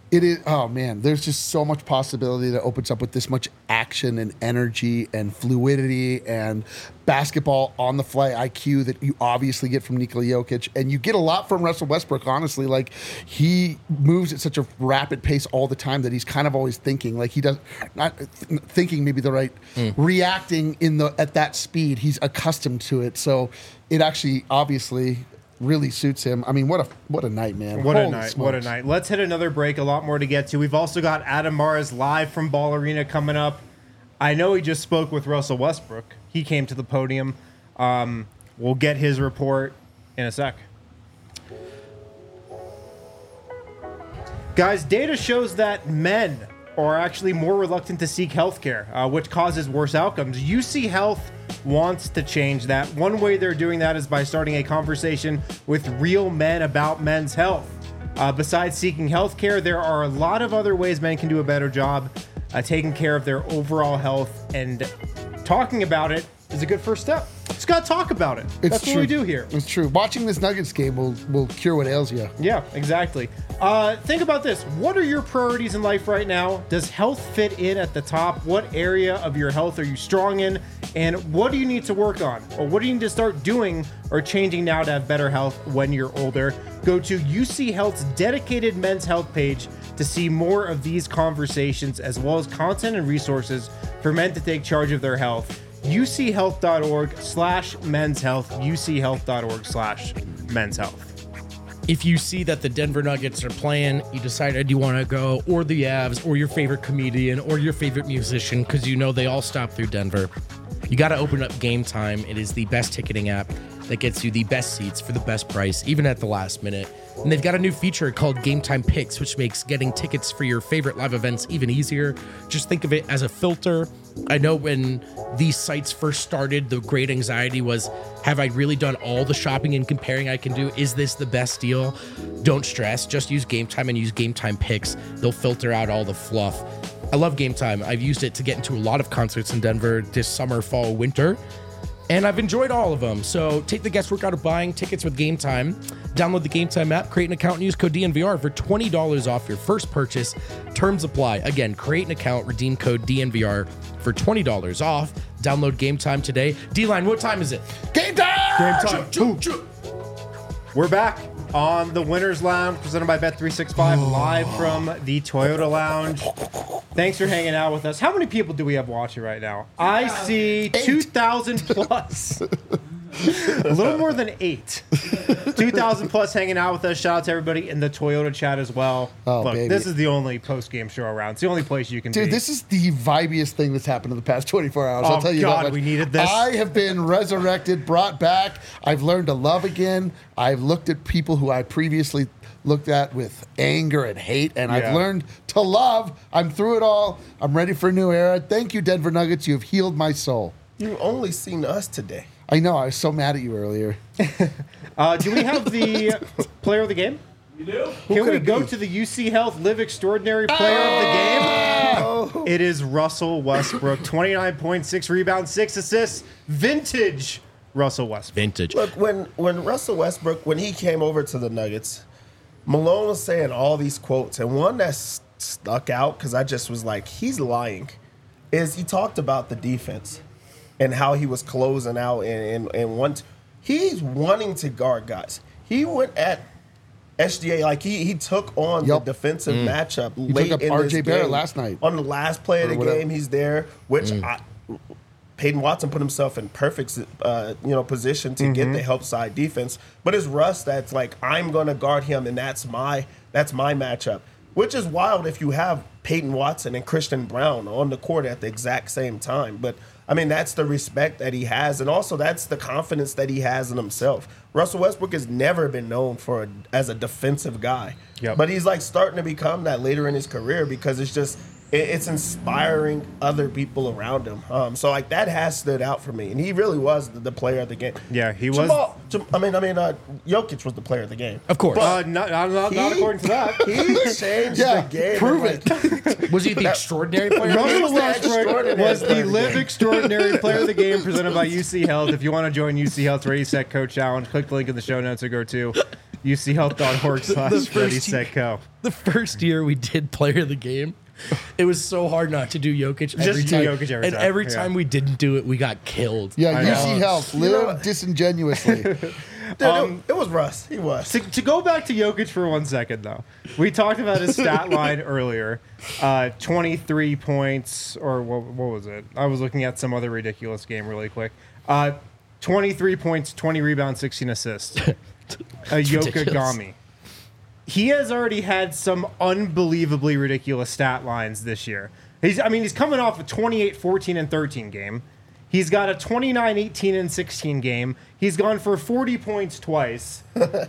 It is. Oh man, there's just so much possibility that opens up with this much action and energy and fluidity and basketball on the fly I Q that you obviously get from Nikola Jokic, and you get a lot from Russell Westbrook. Honestly, like he moves at such a rapid pace all the time that he's kind of always thinking. Like he does not th- thinking maybe the right mm. reacting in the at that speed. He's accustomed to it, so it actually obviously really suits him. I mean, what a what a night, man. What Holy a night. smokes. What a night. Let's hit another break. A lot more to get to. We've also got Adam Mares live from Ball Arena coming up. I know he just spoke with Russell Westbrook. He came to the podium. Um, we'll get his report in a sec. Guys, data shows that men are actually more reluctant to seek healthcare, uh, which causes worse outcomes. U C Health wants to change that. One way they're doing that is by starting a conversation with real men about men's health. Uh, besides seeking healthcare, there are a lot of other ways men can do a better job uh, taking care of their overall health, and talking about it is a good first step. Just gotta talk about it. It's That's true. what we do here. It's true. Watching this Nuggets game will will cure what ails you. Yeah, exactly. Uh, think about this. What are your priorities in life right now? Does health fit in at the top? What area of your health are you strong in? And what do you need to work on? Or what do you need to start doing or changing now to have better health when you're older? Go to U C Health's dedicated men's health page to see more of these conversations, as well as content and resources for men to take charge of their health. uchealth.org slash men's health, uchealth.org slash men's health. If you see that the Denver Nuggets are playing, you decided you want to go, or the Avs, or your favorite comedian, or your favorite musician, because you know they all stop through Denver, you got to open up Game Time. It is the best ticketing app that gets you the best seats for the best price, even at the last minute. And they've got a new feature called Game Time Picks, which makes getting tickets for your favorite live events even easier. Just think of it as a filter. I know when these sites first started, the great anxiety was, have I really done all the shopping and comparing I can do? Is this the best deal? Don't stress. Just use Game Time and use Game Time Picks. They'll filter out all the fluff. I love Game Time. I've used it to get into a lot of concerts in Denver this summer, fall, winter. And I've enjoyed all of them. So take the guesswork out of buying tickets with Game Time. Download the Game Time app, create an account, and use code D N V R for twenty dollars off your first purchase. Terms apply. Again, create an account, redeem code D N V R for twenty dollars off. Download Game Time today. D-Line, what time is it? Game time! Game time. Choo, choo. We're back on the Winners Lounge, presented by Bet three sixty-five, live from the Toyota Lounge. Thanks for hanging out with us. How many people do we have watching right now? I see two thousand plus. A little more than eight. two thousand plus hanging out with us. Shout out to everybody in the Toyota chat as well. Oh, Look, baby. this is the only post-game show around. It's the only place you can Dude, be. this is the vibiest thing that's happened in the past twenty-four hours. Oh, I'll tell you God, that much. we needed this. I have been resurrected, brought back. I've learned to love again. I've looked at people who I previously looked at with anger and hate, and Yeah. I've learned to love. I'm through it all. I'm ready for a new era. Thank you, Denver Nuggets. You have healed my soul. You've only seen us today. I know. I was so mad at you earlier. Uh, do we have the player of the game? You do? Can could we it go be? to the U C Health Live Extraordinary Player of the Game? Oh. It is Russell Westbrook. twenty-nine point six rebounds, six assists. Vintage Russell Westbrook. Vintage. Look, when when Russell Westbrook, when he came over to the Nuggets, Malone was saying all these quotes, and one that s- stuck out because I just was like, he's lying, is he talked about the defense and how he was closing out and and, and want he's wanting to guard guys. He went at S G A like he he took on Yup. the defensive matchup He late took up in R this J Barrett game. last night. On the last play of Or the whatever. game, he's there, which I. Peyton Watson put himself in perfect, uh, you know, position to get the help side defense. But it's Russ that's like, I'm going to guard him, and that's my that's my matchup. Which is wild if you have Peyton Watson and Christian Brown on the court at the exact same time. But I mean, that's the respect that he has, and also that's the confidence that he has in himself. Russell Westbrook has never been known for a, as a defensive guy, Yep. but he's like starting to become that later in his career because it's just. It's inspiring other people around him. Um, so like that has stood out for me, and he really was the, the player of the game. Yeah, he was- Jamal, Jam- I mean, I mean, uh, Jokic was the player of the game. Of course. Uh, not, not, not, not He- according to that. He changed Yeah, the game. prove and, like, Was he the extraordinary player? Russell was the Westbrook extraordinary was player the of the Live game. Extraordinary Player of the Game presented by U C Health. If you want to join U C Health's Ready Set Coach Challenge, click the link in the show notes or go to U C health dot org slash first ready year- set go. The first year we did player of the game, it was so hard not to do Jokic every do time. Jokic every and time, every yeah. time we didn't do it, we got killed. Yeah, I U know. C Health, live disingenuously. Dude, it, it was Russ. He was. To, to go back to Jokic for one second, though, we talked about his stat line earlier. Uh, twenty-three points, or what, what was it? I was looking at some other ridiculous game really quick. Uh, twenty-three points, twenty rebounds, sixteen assists. Uh, Yoka ridiculous. Gami. He has already had some unbelievably ridiculous stat lines this year. He's, I mean, he's coming off a twenty-eight, fourteen, and thirteen game. He's got a twenty-nine, eighteen, and sixteen game. He's gone for forty points twice.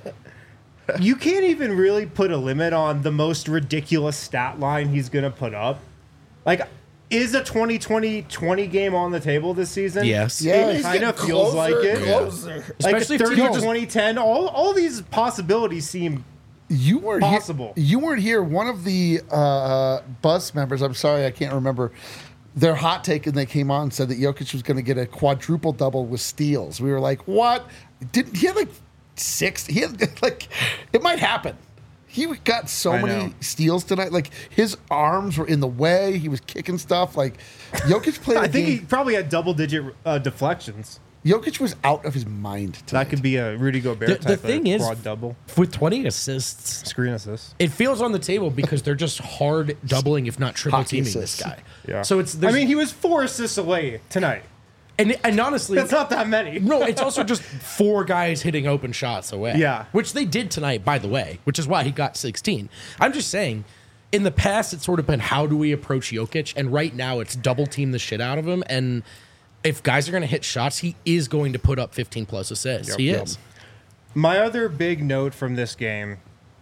You can't even really put a limit on the most ridiculous stat line he's going to put up. Like, is a twenty twenty twenty game on the table this season? Yes. Yeah, It he's kind of getting feels closer like and it. Closer. Like Especially if thirty, teams- twenty, ten, all, all these possibilities seem You weren't Possible. Here, you weren't here. One of the uh, bus members, I'm sorry, I can't remember, their hot take, and they came on and said that Jokic was going to get a quadruple double with steals. We were like, what? Didn't he had like six? He had like, it might happen. He got so I many know. steals tonight. Like his arms were in the way. He was kicking stuff. Like Jokic played. I a think he game. probably had double digit uh, deflections. Jokic was out of his mind tonight. That could be a Rudy Gobert The, type the thing of is, quad double. with twenty assists, Screen assists. it feels on the table because they're just hard doubling, if not triple Hockey teaming assists. this guy. Yeah. So it's. I there's- mean, he was four assists away tonight. and and honestly, That's not that many. no, it's also just four guys hitting open shots away. Yeah. Which they did tonight, by the way, which is why he got sixteen. I'm just saying, in the past, it's sort of been how do we approach Jokic? And right now, it's double team the shit out of him. And if guys are going to hit shots, he is going to put up fifteen plus assists. Yep. he Yep. is. My other big note from this game,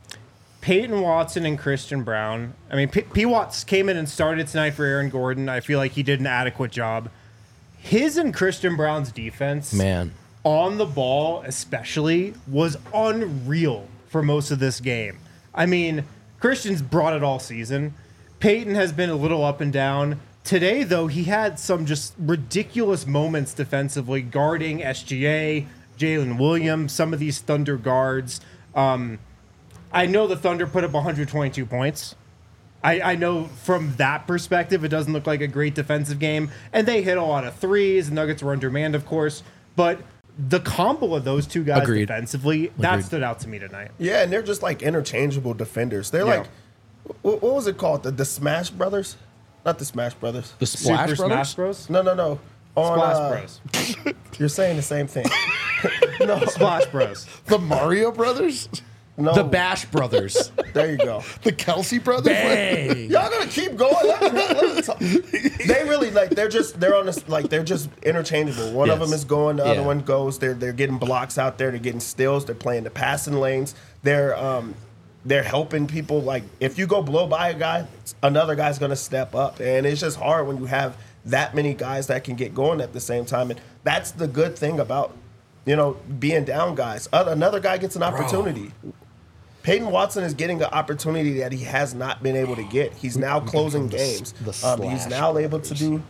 Peyton Watson and Christian Brown. I mean, P. P. Watts came in and started tonight for Aaron Gordon. I feel like he did an adequate job. His and Christian Brown's defense, Man. on the ball especially, was unreal for most of this game. I mean, Christian's brought it all season. Peyton has been a little up and down. Today, though, he had some just ridiculous moments defensively, guarding S G A, Jalen Williams, some of these Thunder guards. Um, I know the Thunder put up one hundred twenty-two points. I, I know from that perspective, it doesn't look like a great defensive game. And they hit a lot of threes. The Nuggets were undermanned, of course. But the combo of those two guys Agreed. defensively, that Agreed. stood out to me tonight. Yeah, and they're just like interchangeable defenders. They're Yeah. like, what, what was it called? The, the Smash Brothers? Not the Smash Brothers. The Splash Super Brothers? Smash Bros? No, no, no. On, Splash uh, Bros. You're saying the same thing. Splash Bros. the Mario Brothers, No. The Bash Brothers. There you go. the Kelsey Brothers. Bang. Y'all gonna keep going? Let me- let me talk. They really like they're just they're on this like they're just interchangeable. One of Yes. them is going, the other Yeah. one goes. They're they're getting blocks out there. They're getting steals. They're playing the passing lanes. They're um they're helping people. Like if you go blow by a guy, another guy's gonna step up, and it's just hard when you have that many guys that can get going at the same time. And that's the good thing about you know being down guys. Other, another guy gets an opportunity. Peyton Watson is getting an opportunity that he has not been able to get. He's now closing games. the Um, he's slash now able to do,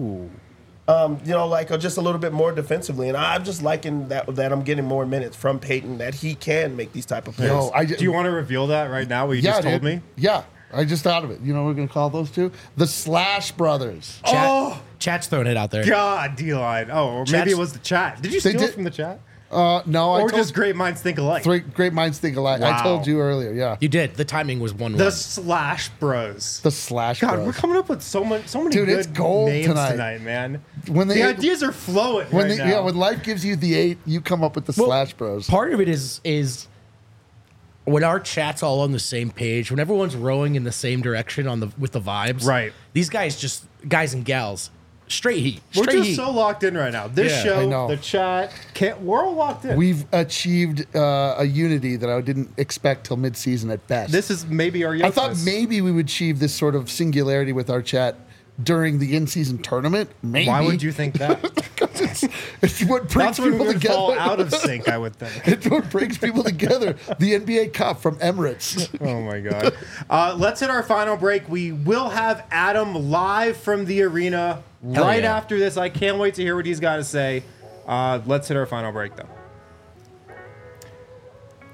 um, you know, like uh, just a little bit more defensively. And I'm just liking that that I'm getting more minutes from Peyton, that he can make these type of plays. No, I Do you want to reveal that right now? What you yeah, just told dude. me? Yeah, I just thought of it. You know what we're gonna call those two? The Slash Brothers. Chat, Oh! Chat's throwing it out there. God, D-line. Oh, or maybe Chat's- it was the chat. Did you They steal did- it from the chat? Uh, no, I Or told just great minds think alike? three great minds think alike. I Wow. told you earlier. Yeah, You did. The timing was one The one. Slash Bros. the Slash God, Bros. we're coming up with so much, so many Dude, good it's gold names tonight. tonight. man. When they- the ideas are flowing when right they, now. yeah, when life gives you the eight, you come up with the Well, Slash Bros. Part of it is is when our chat's all on the same page, when everyone's rowing in the same direction on the with the vibes. Right. These guys just guys and gals, straight heat. we're Straight just heat. so locked in right now. This Yeah, show, I know. the chat, can't, we're all locked in. We've achieved uh, a unity that I didn't expect till mid-season at best. this is maybe our. I thought youngest. maybe we would achieve this sort of singularity with our chat during the in-season tournament. Maybe. Why would you think that? it's, it's what brings That's when we people would together. fall out of sync. I would think. It's what brings people together. The N B A Cup from Emirates. Oh my god. Uh, let's hit our final break. We will have Adam live from the arena Hell right yeah. after this. I can't wait to hear what he's got to say. Uh, let's hit our final break though.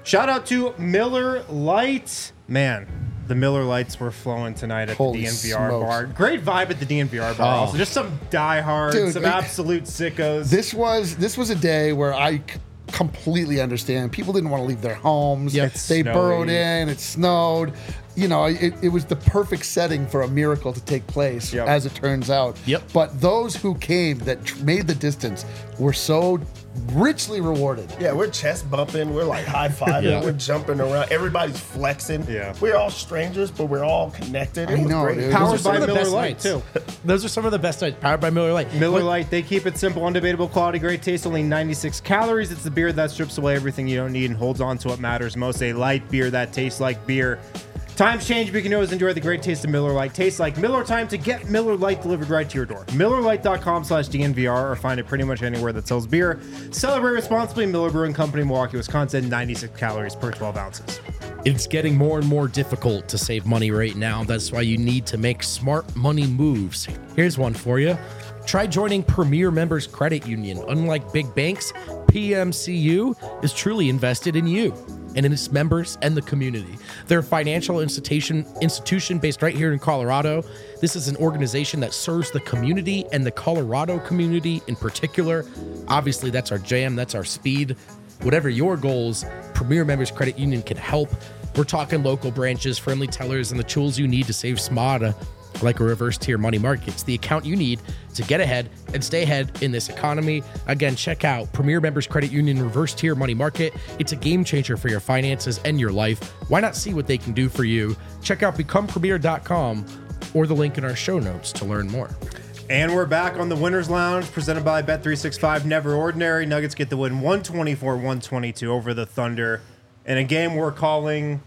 Shout out to Miller Lite. Man, the Miller Lights were flowing tonight at Holy the D N V R smokes. bar. Great vibe at the D N V R bar. Oh. Also, just some diehards, Dude, some we- absolute sickos. This was this was a day where I c- completely understand. People didn't want to leave their homes. Yep. It's They snowy. burrowed in. It snowed. You know, it, it was the perfect setting for a miracle to take place, Yep. as it turns out. Yep. But those who came that tr- made the distance were so richly rewarded. Yeah, we're chest bumping. We're like high fiving. Yeah. We're jumping around. Everybody's flexing. Yeah. We're all strangers, but we're all connected. It I was know, great. dude. Powered Those are some by of the Miller best Lite, nights. too. Those are some of the best nights. Powered by Miller Lite. Miller What- Lite, they keep it simple, undebatable quality, great taste, only ninety-six calories. It's the beer that strips away everything you don't need and holds on to what matters most. A light beer that tastes like beer. Times change, but you can always enjoy the great taste of Miller Lite. Tastes like Miller time to get Miller Lite delivered right to your door. Miller Lite dot com slash D N V R or find it pretty much anywhere that sells beer. Celebrate responsibly. Miller Brewing Company, Milwaukee, Wisconsin. ninety-six calories per twelve ounces. It's getting more and more difficult to save money right now. That's why you need to make smart money moves. Here's one for you. Try joining Premier Members Credit Union. Unlike big banks, P M C U is truly invested in you and in its members and the community. They're a financial institution institution based right here in Colorado. This is an organization that serves the community and the Colorado community in particular. Obviously, that's our jam, that's our speed. Whatever your goals, Premier Members Credit Union can help. We're talking local branches, friendly tellers, and the tools you need to save smarter, like a reverse tier money market. It's the account you need to get ahead and stay ahead in this economy. Again, check out Premier Members Credit Union Reverse Tier Money Market. It's a game changer for your finances and your life. Why not see what they can do for you? Check out become premier dot com or the link in our show notes to learn more. And we're back on the Winners Lounge, presented by Bet three sixty-five. Never ordinary. Nuggets get the win one twenty-four one twenty-two over the Thunder in a game we're calling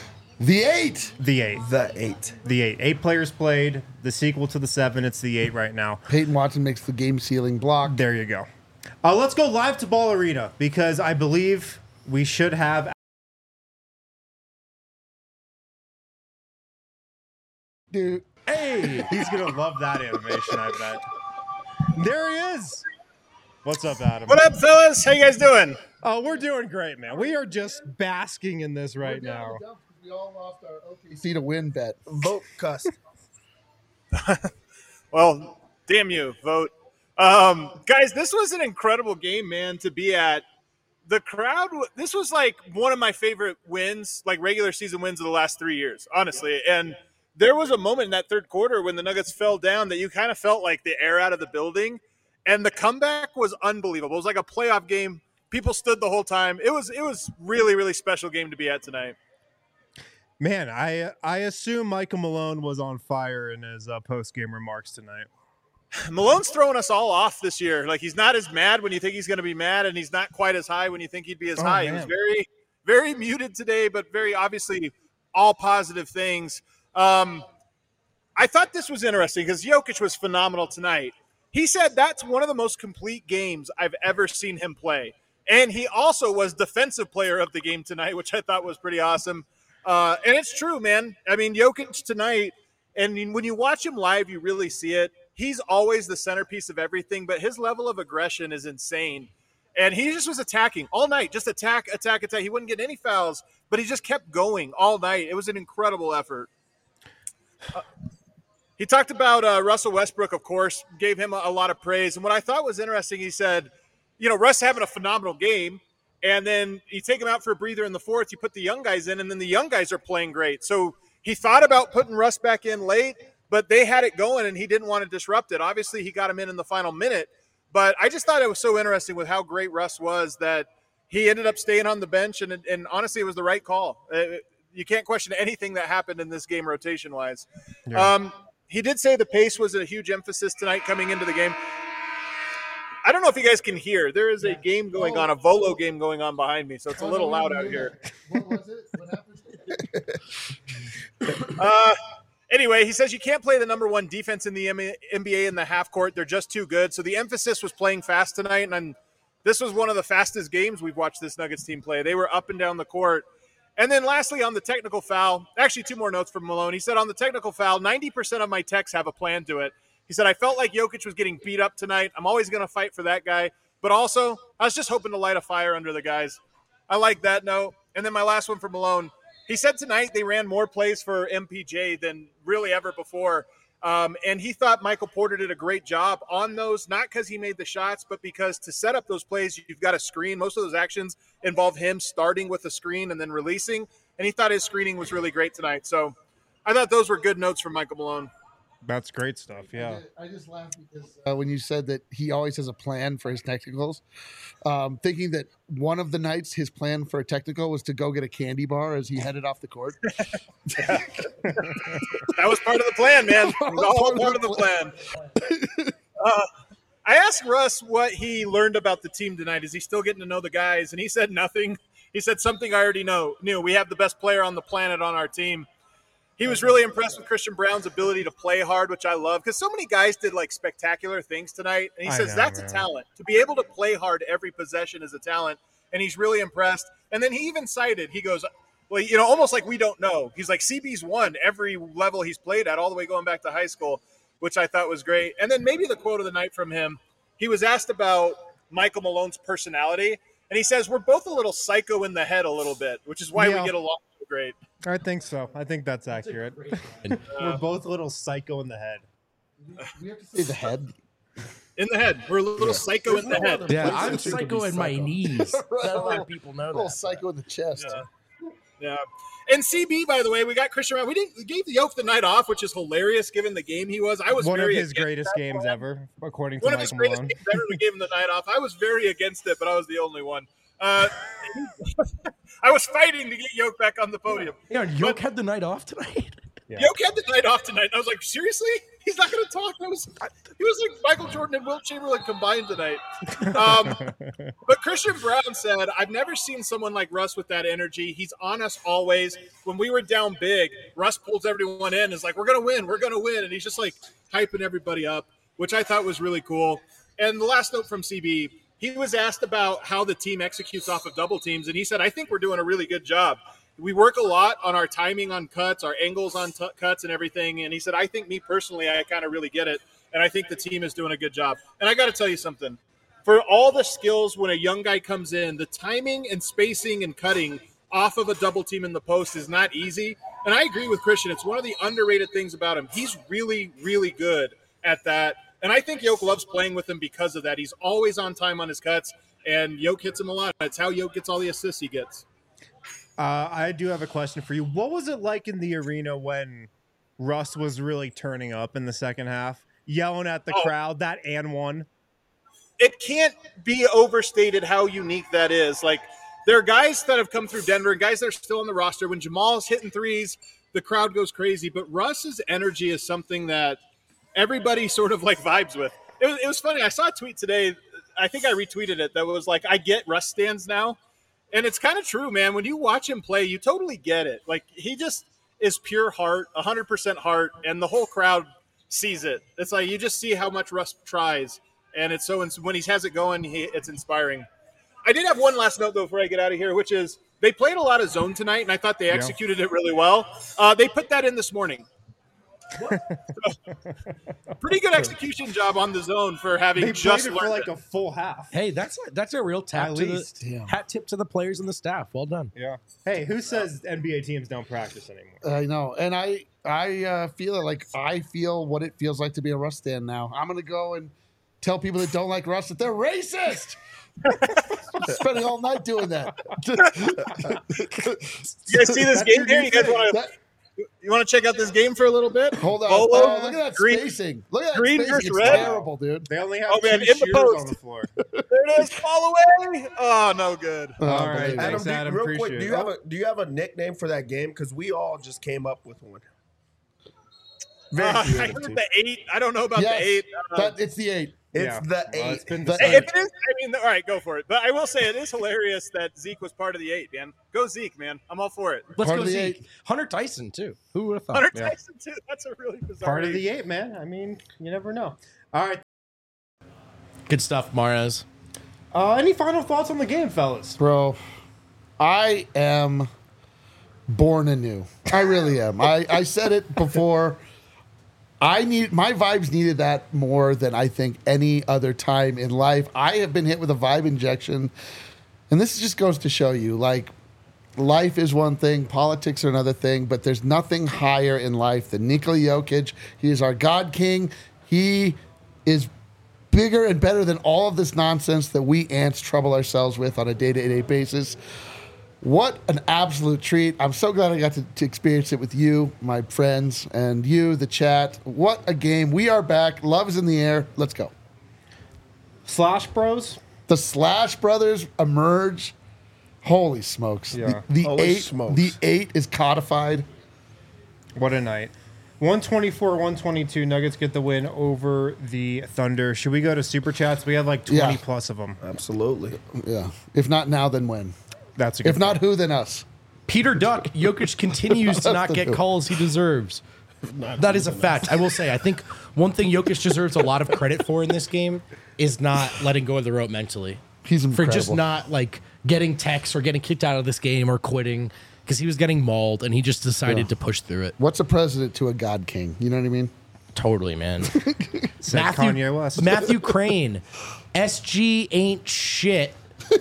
The eight. the eight. The eight. The eight. Eight players played. The sequel to the seven. It's the eight right now. Peyton Watson makes the game sealing block. There you go. Uh, let's go live to Ball Arena because I believe we should have. Dude. Hey, he's gonna love that animation. I bet. There he is. What's up, Adam? What up, fellas? How you guys doing? Oh, we're doing great, man. We are just basking in this right now. We all lost our O K C to win bet. Vote cuss. Well, damn you, vote. Um, guys, this was an incredible game, man, to be at. The crowd, this was like one of my favorite wins, like regular season wins of the last three years, honestly. And there was a moment in that third quarter when the Nuggets fell down that you kind of felt like the air out of the building. And the comeback was unbelievable. It was like a playoff game. People stood the whole time. It was it was really, really special game to be at tonight. Man, I I assume Michael Malone was on fire in his uh, post game remarks tonight. Malone's throwing us all off this year. Like, he's not as mad when you think he's going to be mad, and he's not quite as high when you think he'd be as Oh, high. man. He was very, very muted today, but very obviously all positive things. Um, I thought this was interesting because Jokic was phenomenal tonight. He said that's one of the most complete games I've ever seen him play. And he also was defensive player of the game tonight, which I thought was pretty awesome. Uh, and it's true, man. I mean, Jokic tonight, and when you watch him live, you really see it. He's always the centerpiece of everything, but his level of aggression is insane. And he just was attacking all night, just attack, attack, attack. He wouldn't get any fouls, but he just kept going all night. It was an incredible effort. Uh, he talked about uh, Russell Westbrook, of course, gave him a, a lot of praise. And what I thought was interesting, he said, you know, Russ having a phenomenal game, and then you take him out for a breather in the fourth, you put the young guys in, and then the young guys are playing great. So he thought about putting Russ back in late, but they had it going, and he didn't want to disrupt it. Obviously, he got him in in the final minute, but I just thought it was so interesting with how great Russ was that he ended up staying on the bench, and, and honestly, it was the right call. Uh, you can't question anything that happened in this game rotation-wise. Yeah. Um, he did say the pace was a huge emphasis tonight coming into the game. I don't know if you guys can hear. There is a game going on, a Volo game going on behind me, so it's a little loud out here. What was it? What happened? Uh, anyway, he says you can't play the number one defense in the N B A in the half court. They're just too good. So the emphasis was playing fast tonight, and I'm, this was one of the fastest games we've watched this Nuggets team play. They were up and down the court. And then lastly, on the technical foul, actually two more notes from Malone. He said on the technical foul, ninety percent of my texts have a plan to it. He said, I felt like Jokic was getting beat up tonight. I'm always going to fight for that guy. But also, I was just hoping to light a fire under the guys. I like that note. And then my last one for Malone. He said tonight they ran more plays for M P J than really ever before. Um, and he thought Michael Porter did a great job on those, not because he made the shots, but because to set up those plays, you've got a screen. Most of those actions involve him starting with a screen and then releasing. And he thought his screening was really great tonight. So I thought those were good notes from Michael Malone. That's great stuff. Yeah. I just laughed because uh, when you said that he always has a plan for his technicals, um, thinking that one of the nights his plan for a technical was to go get a candy bar as he headed off the court. That was part of the plan, man. It was all part of the plan. Uh, I asked Russ what he learned about the team tonight. Is he still getting to know the guys? And he said nothing. He said something I already know. Knew we have the best player on the planet on our team. He was really impressed with Christian Brown's ability to play hard, which I love, because so many guys did like spectacular things tonight. And he I says know, that's man. a talent. To be able to play hard every possession is a talent. And he's really impressed. And then he even cited, he goes, well, you know, almost like we don't know. He's like, C B's won every level he's played at, all the way going back to high school, which I thought was great. And then maybe the quote of the night from him, he was asked about Michael Malone's personality. And he says, we're both a little psycho in the head a little bit, which is why Yeah. we get along so great. I think so. I think that's accurate. We're both a little psycho in the head. We have to say the head. In the head. We're a little psycho in the head. Yeah, Places I'm you could psycho be in my psycho. knees. Not a lot of people know A little that. psycho in the chest. Yeah. Yeah. And C B, by the way, we got Christian Brown. We didn't we gave the Yoke the night off, which is hilarious given the game he was. I was One of very his against greatest that games plan. ever, according to One of his Michael greatest Malone. games ever. We gave him the night off. I was very against it, but I was the only one. Uh, I was fighting to get Yoke back on the podium. Yeah, Yoke had the night off tonight. Yeah. Yoke had the night off tonight. I was like, seriously? He's not going to talk? I was, he was like Michael Jordan and Wilt Chamberlain combined tonight. Um, but Christian Brown said, I've never seen someone like Russ with that energy. He's on us always. When we were down big, Russ pulls everyone in. Is like, we're going to win. We're going to win. And he's just like hyping everybody up, which I thought was really cool. And the last note from C B, he was asked about how the team executes off of double teams. And he said, I think we're doing a really good job. We work a lot on our timing on cuts, our angles on t- cuts and everything. And he said, I think me personally, I kind of really get it. And I think the team is doing a good job. And I got to tell you something. For all the skills when a young guy comes in, the timing and spacing and cutting off of a double team in the post is not easy. And I agree with Christian. It's one of the underrated things about him. He's really, really good at that. And I think Yoke loves playing with him because of that. He's always on time on his cuts, and Yoke hits him a lot. That's how Yoke gets all the assists he gets. Uh, I do have a question for you. What was it like in the arena when Russ was really turning up in the second half, yelling at the Oh. crowd, that and one? It can't be overstated how unique that is. Like, there are guys that have come through Denver and guys that are still on the roster. When Jamal's hitting threes, the crowd goes crazy. But Russ's energy is something that everybody sort of like vibes with. It was, it was funny. I saw a tweet today. I think I retweeted it. That was like, I get Russ stands now. And it's kind of true, man. When you watch him play, you totally get it. Like, he just is pure heart, one hundred percent heart, and the whole crowd sees it. It's like you just see how much Russ tries, and it's so when he has it going, he, it's inspiring. I did have one last note, though, before I get out of here, which is they played a lot of zone tonight, and I thought they executed it really well. Uh, they put that in this morning. Pretty good execution job on the zone for having They just played it for learned like it. a full half. Hey, that's a, that's a real tap At to least. the Damn. hat tip to the players and the staff. Well done. Yeah. Hey, who says N B A teams don't practice anymore? I know, and I I uh, feel it like I feel what it feels like to be a Russ fan now. I'm gonna go and tell people that don't like Russ that they're racist. Spending all night doing that. You guys see this game here? You guys want to That- you want to check out this game for a little bit? hold on. Bolo, Oh, look at that green- spacing. Look at that green spacing. versus It's red. terrible, dude. They only have Oh, man, two in the shooters post. on the floor. There it is. Fall away. Oh, no good. Oh, All right, believe it. thanks, Adam, do, Adam. real quick, Appreciate do you it. have a do you have a nickname for that game? Because we all just came up with one. Very Uh, I creative, heard too. the eight. I don't know about Yes, the eight. Uh, but it's the eight. It's Yeah. the eight. Well, it's been The Hey, decided. if it is, I mean, all right, go for it. But I will say it is hilarious that Zeke was part of the eight, man. Go Zeke, man. I'm all for it. Let's Part go of the see eight. Hunter Tyson too. Who would have thought? Hunter yeah. Tyson, too. That's a really bizarre Part of eight. the eight, man. I mean, you never know. All right. Good stuff, Mares. Uh, any final thoughts on the game, fellas? Bro, I am born anew. I really am. I, I said it before. I need my vibes needed that more than I think any other time in life. I have been hit with a vibe injection, and this just goes to show you, like, life is one thing, politics are another thing, but there's nothing higher in life than Nikola Jokic. He is our God King. He is bigger and better than all of this nonsense that we ants trouble ourselves with on a day-to-day basis. What an absolute treat. I'm so glad I got to, to experience it with you, my friends, and you, the chat. What a game. We are back. Love is in the air. Let's go. Slash Bros. The Slash Brothers emerge. Holy smokes. Yeah. The, the Holy eight smokes. the eight is codified. What a night. one twenty-four one twenty-two. Nuggets get the win over the Thunder. Should we go to Super Chats? We have like twenty Yeah. plus of them. Absolutely. Yeah. If not now, then when? That's a good If not who, then us. Peter Duck, Jokic continues to not get calls he deserves. That is a fact. I will say, I think one thing Jokic deserves a lot of credit for in this game is not letting go of the rope mentally. He's For incredible. just not like getting texts or getting kicked out of this game or quitting because he was getting mauled and he just decided Yeah. to push through it. What's a president to a God King? You know what I mean? Totally, man. Said Matthew, Kanye West. Matthew Crane, S G ain't shit.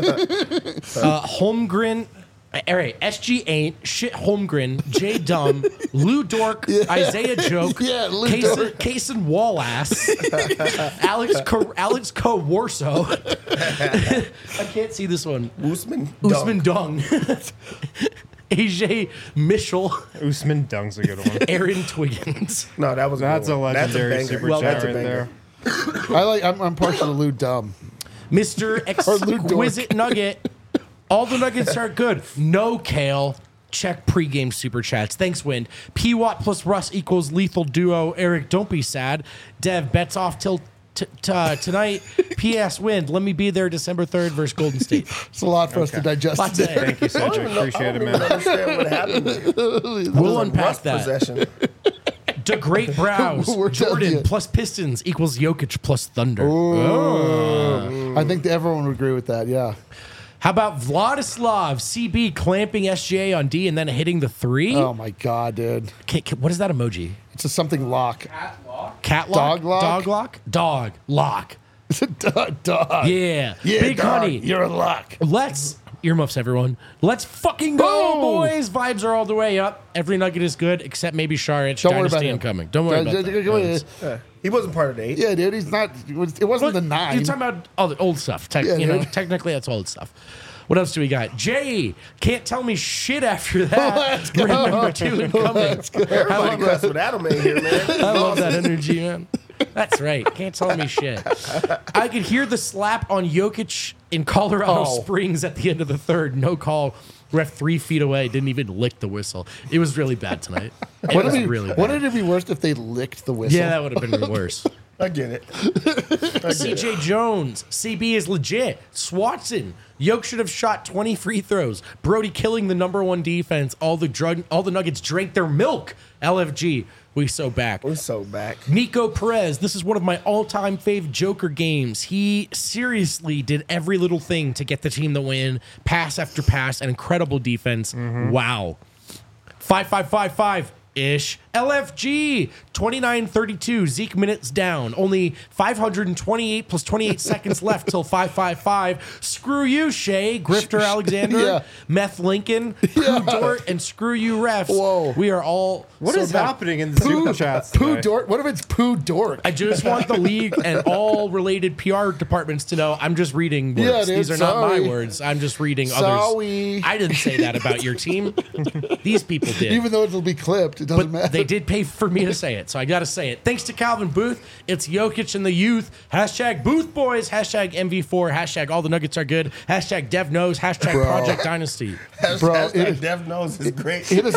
uh, Holmgren, all right, S G ain't shit. Holmgren, J Dumb, Lou Dork, Isaiah Joke, Yeah, Lou Kason, Dork. Kason Wallace, Alex Co, Alex Co Warso. I can't see this one. Usman. Usman Dunk. Dung. A J Mitchell, Usman Dung's a good one. Aaron Twiggins. No, that was a That's good a one. That's legendary banger. super Well, chat that's a right banger. there. I like. I'm, I'm partial to Lou Dumb. Mister Or Lou Dork. Exquisite Nugget. All the Nuggets are good. No Kale. Check pregame super chats. Thanks, Wind. P Watt plus Russ equals lethal duo. Eric, don't be sad. Dev bets off till t- t- uh, tonight. P S Wind. Let me be there December third versus Golden State. It's a lot for us to digest. Lots today. of- Thank you, I don't Cedric. even know- Appreciate I it, don't even man. understand what happened there. We'll Russ unpack that. Possession. The Great Brows. We're telling Jordan you. plus Pistons equals Jokic plus Thunder. I think that everyone would agree with that. Yeah. How about Vladislav C B clamping S J A on D and then hitting the three? Oh my god, dude. Ca- ca- what is that emoji? It's a something lock. Cat lock? Dog lock? Dog lock? Dog lock. It's a dog. dog. Yeah. Yeah, Big dog, honey. You're a lock. Let's earmuffs, everyone. Let's fucking go, Boom. boys. Vibes are all the way up. Every nugget is good except maybe Sharich. Don't worry about Dynasty him. incoming. Don't worry about Don't- that. don't- don't- It's- Yeah. He wasn't part of the eight. Yeah, dude. He's not. It wasn't What- the nine. You're talking about all the old stuff. Tech, Yeah, you know, dude. technically that's old stuff. What else do we got? Jay can't tell me shit after that. Let's go. Ring number two incoming. Everybody cussed with Adam in here, man. I love that energy, man. That's right. Can't tell me shit. I could hear the slap on Jokic in Colorado Oh. Springs at the end of the third. No call. Ref three feet away. Didn't even lick the whistle. It was really bad tonight. It Wouldn't was it be, really bad. wouldn't it be worse if they licked the whistle? Yeah, that would have been worse. I get it. C J Jones, C B is legit. Swatson, Yoke should have shot twenty free throws. Brody killing the number one defense. All the drug, all the Nuggets drank their milk. L F G, we so back. We're so back. Nico Perez, this is one of my all-time fave Joker games. He seriously did every little thing to get the team the win. Pass after pass, an incredible defense. Wow. Five five five five. Ish. L F G twenty-nine thirty-two. Zeke minutes down. Only five hundred twenty-eight plus twenty-eight seconds left till five five five. Screw you, Shay. Grifter Alexander. Yeah. Meth Lincoln. Pooh Dort. And screw you, refs. Whoa. We are all. What so is back. happening in the super chats Pooh today? Dork. What if it's Pooh Dork? I just want the league and all related P R departments to know I'm just reading words. Yeah, dude, These are not sorry. my words. I'm just reading Sorry. others. I didn't say that about your team. These people did. Even though it'll be clipped, it doesn't but matter. they did pay for me to say it, so I got to say it. Thanks to Calvin Booth. It's Jokic and the youth. Hashtag Booth Boys. Hashtag M V four. Hashtag All the Nuggets are good. Hashtag Dev Knows. Hashtag Bro. Project Dynasty. Bro, Hashtag it is- Dev knows is great. It is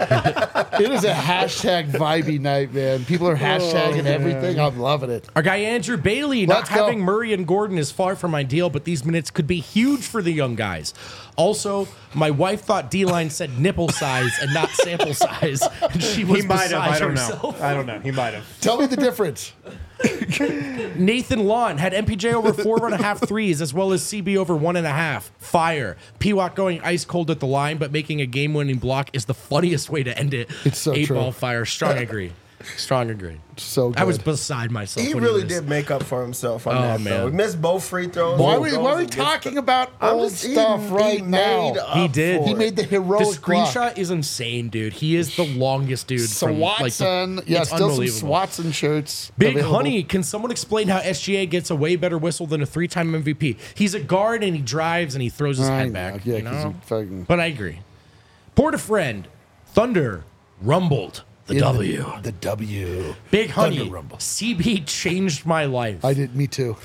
a it is a hashtag vibey night, man. People are hashtagging everything. I'm loving it. Our guy Andrew Bailey, not Let's go. having Murray and Gordon is far from ideal, but these minutes could be huge for the young guys. Also, my wife thought D-Line said nipple size and not sample size, and she was He might have. beside I don't herself. know. I don't know. He might have. Tell me the difference. Nathan Lawn had M P J over four and a half threes, as well as C B over one and a half. Fire. P W A C going ice cold at the line, but making a game-winning block is the funniest way to end it. It's so Eight true. ball fire. Strong agree. Strong agreed. So good. I was beside myself. He when really he missed. did make up for himself on Oh, that, man. though. He missed both free throws. Why are both we, goals why are we against talking the- about I'm old just- he- stuff he right made now? up He did. for He it. made the The heroic block. screenshot is insane, dude. He is the longest dude. from, like, the- Swatson. Yeah, it's still some unbelievable. Swatson shirts. Big available. Honey, can someone explain how S G A gets a way better whistle than a three-time M V P? He's a guard and he drives and he throws his I head know, back. yeah, you 'cause know? he fucking- But I agree. Porta Friend, Thunder, rumbled the In W. The W. Big Honey, Thunder rumble. C B changed my life. I did. Me too.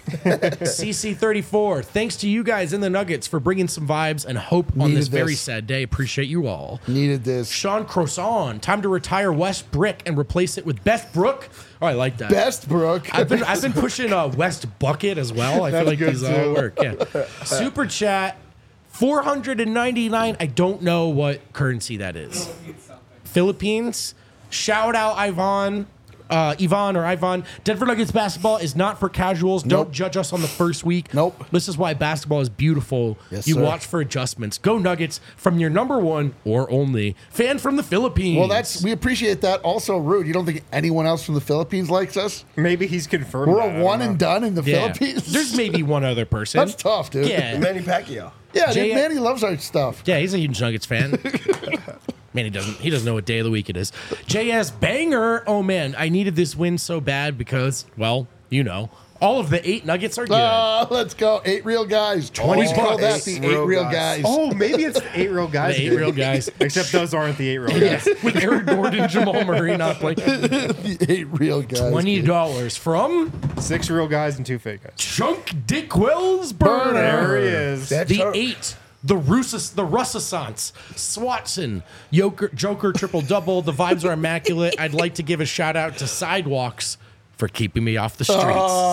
C C thirty-four, thanks to you guys in the Nuggets for bringing some vibes and hope on Needed this very this. sad day. Appreciate you all. Needed this. Sean Croissant, time to retire West Brick and replace it with Best Brook. Oh, I like that. Bestbrook. I've been I've been pushing uh, West Bucket as well. I feel like these all work. Yeah. Super chat, four hundred ninety-nine. I don't know what currency that is. Philippines. Shout out Ivan. Uh, Ivan or Ivan. Denver Nuggets basketball is not for casuals. Don't Nope. judge us on the first week. Nope. This is why basketball is beautiful. Yes, you sir. watch for adjustments. Go Nuggets from your number one or only fan from the Philippines. Well, that's we appreciate that. Also, Rude, you don't think anyone else from the Philippines likes us? Maybe he's confirmed. We're that, I a don't one know. and done in the yeah. Philippines. There's maybe one other person. That's tough, dude. Yeah. Manny Pacquiao. Yeah, dude, J- Manny loves our stuff. Yeah, he's a huge Nuggets fan. Man, he doesn't. He doesn't know what day of the week it is. J S Banger. Oh man, I needed this win so bad because, well, you know, all of the eight Nuggets are good. Oh, let's go. Eight real guys. twenty We call that bucks. the Eight eight real real guys. guys. Oh, maybe it's the eight real guys. The eight dude. real guys. Except those aren't the eight real guys. With Eric Gordon, Jamal Murray not playing. the eight real guys. Twenty dollars from Six real guys and two fake guys. Chunk Dickwell's Burner. There he is. That The chunk. eight. The Russis, the Russissance, Swatson, Joker, Joker triple double. The vibes are immaculate. I'd like to give a shout out to Sidewalks for keeping me off the streets.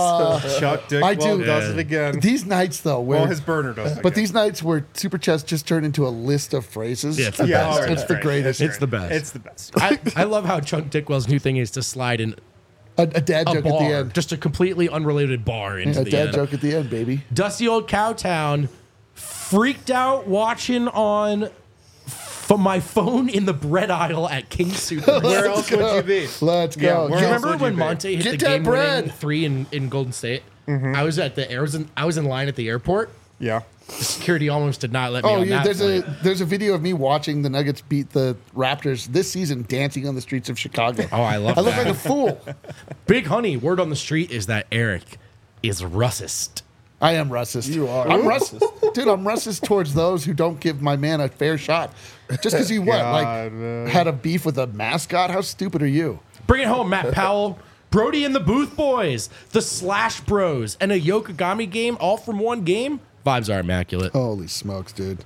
Chuck Dick I do. does Yeah. it again. These nights, though, where Well, his burner does it but again. these nights where Super Chest just turned into a list of phrases. Yeah, it's the Yeah, best. all right, It's that's the great. greatest. It's the best. It's the best. I, I love how Chunk Dickwell's new thing is to slide in A, a dad a joke bar, at the end. just a completely unrelated bar into A the dad end. joke at the end, baby. Dusty old Cowtown, freaked out watching on from my phone in the bread aisle at King Super. Where else would you be? Let's Yeah, go. where Do you else remember would when you be? Monte hit Get the that game winning bread. three in, in Golden State? I was at the I was in I was in line at the airport. Yeah. The security almost did not let me Oh, on yeah, that there's flight. a there's a video of me watching the Nuggets beat the Raptors this season, dancing on the streets of Chicago. Oh, I love I look that. like a fool. Big Honey, word on the street is that Eric is Russist. I am racist. You are I'm racist. racist, dude. I'm racist towards those who don't give my man a fair shot. Just because he what, God, like, man. had a beef with a mascot? How stupid are you? Bring it home, Matt Powell. Brody and the Booth Boys, the Slash Bros, and a Yokogami game all from one game. Vibes are immaculate. Holy smokes, dude.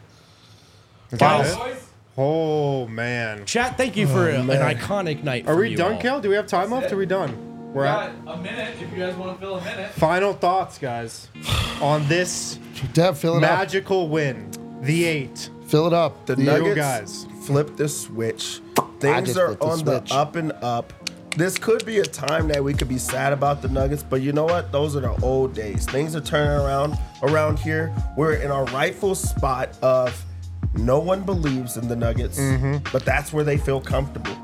Guys, Boys, Oh, man. chat, thank you for a- an iconic night. Are from we you done, all. Kel? Do we have time left? Are we done? We're got at a minute if you guys want to fill a minute. final thoughts, guys, on this Deb, fill it magical win. The eight. up. Fill it up. The The- Nuggets guys. flip the switch. I Things just are flipped the on switch. the up and up. This could be a time that we could be sad about the Nuggets, but you know what? Those are the old days. Things are turning around around here. We're in our rightful spot of no one believes in the Nuggets, but that's where they feel comfortable.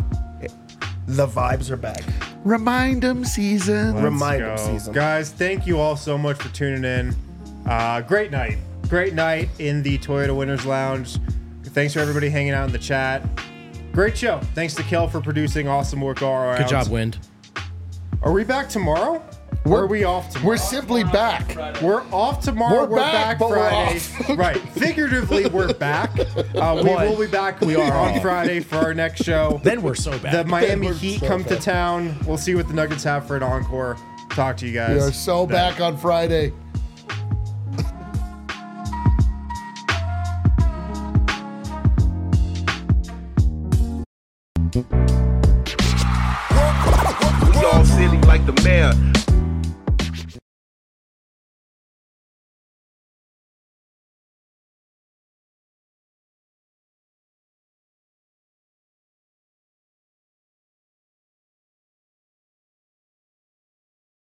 The vibes are back. Remind them season. Remind Go. them season. Guys, thank you all so much for tuning in. Uh, great night. Great night in the Toyota Winners Lounge. Thanks for everybody hanging out in the chat. Great show. Thanks to Kel for producing awesome work all around. Good job, Wind. Are we back tomorrow? Or are we off tomorrow? We're simply back. We're off tomorrow. We're We're, back, back, but we're Friday. off. Right. Figuratively, we're back. Uh, we will be back we are on Friday for our next show. Then we're so bad. The Miami We're Heat so come to bad. town. We'll see what the Nuggets have for an encore. Talk to you guys. We are so then. back on Friday. We all silly like the mayor.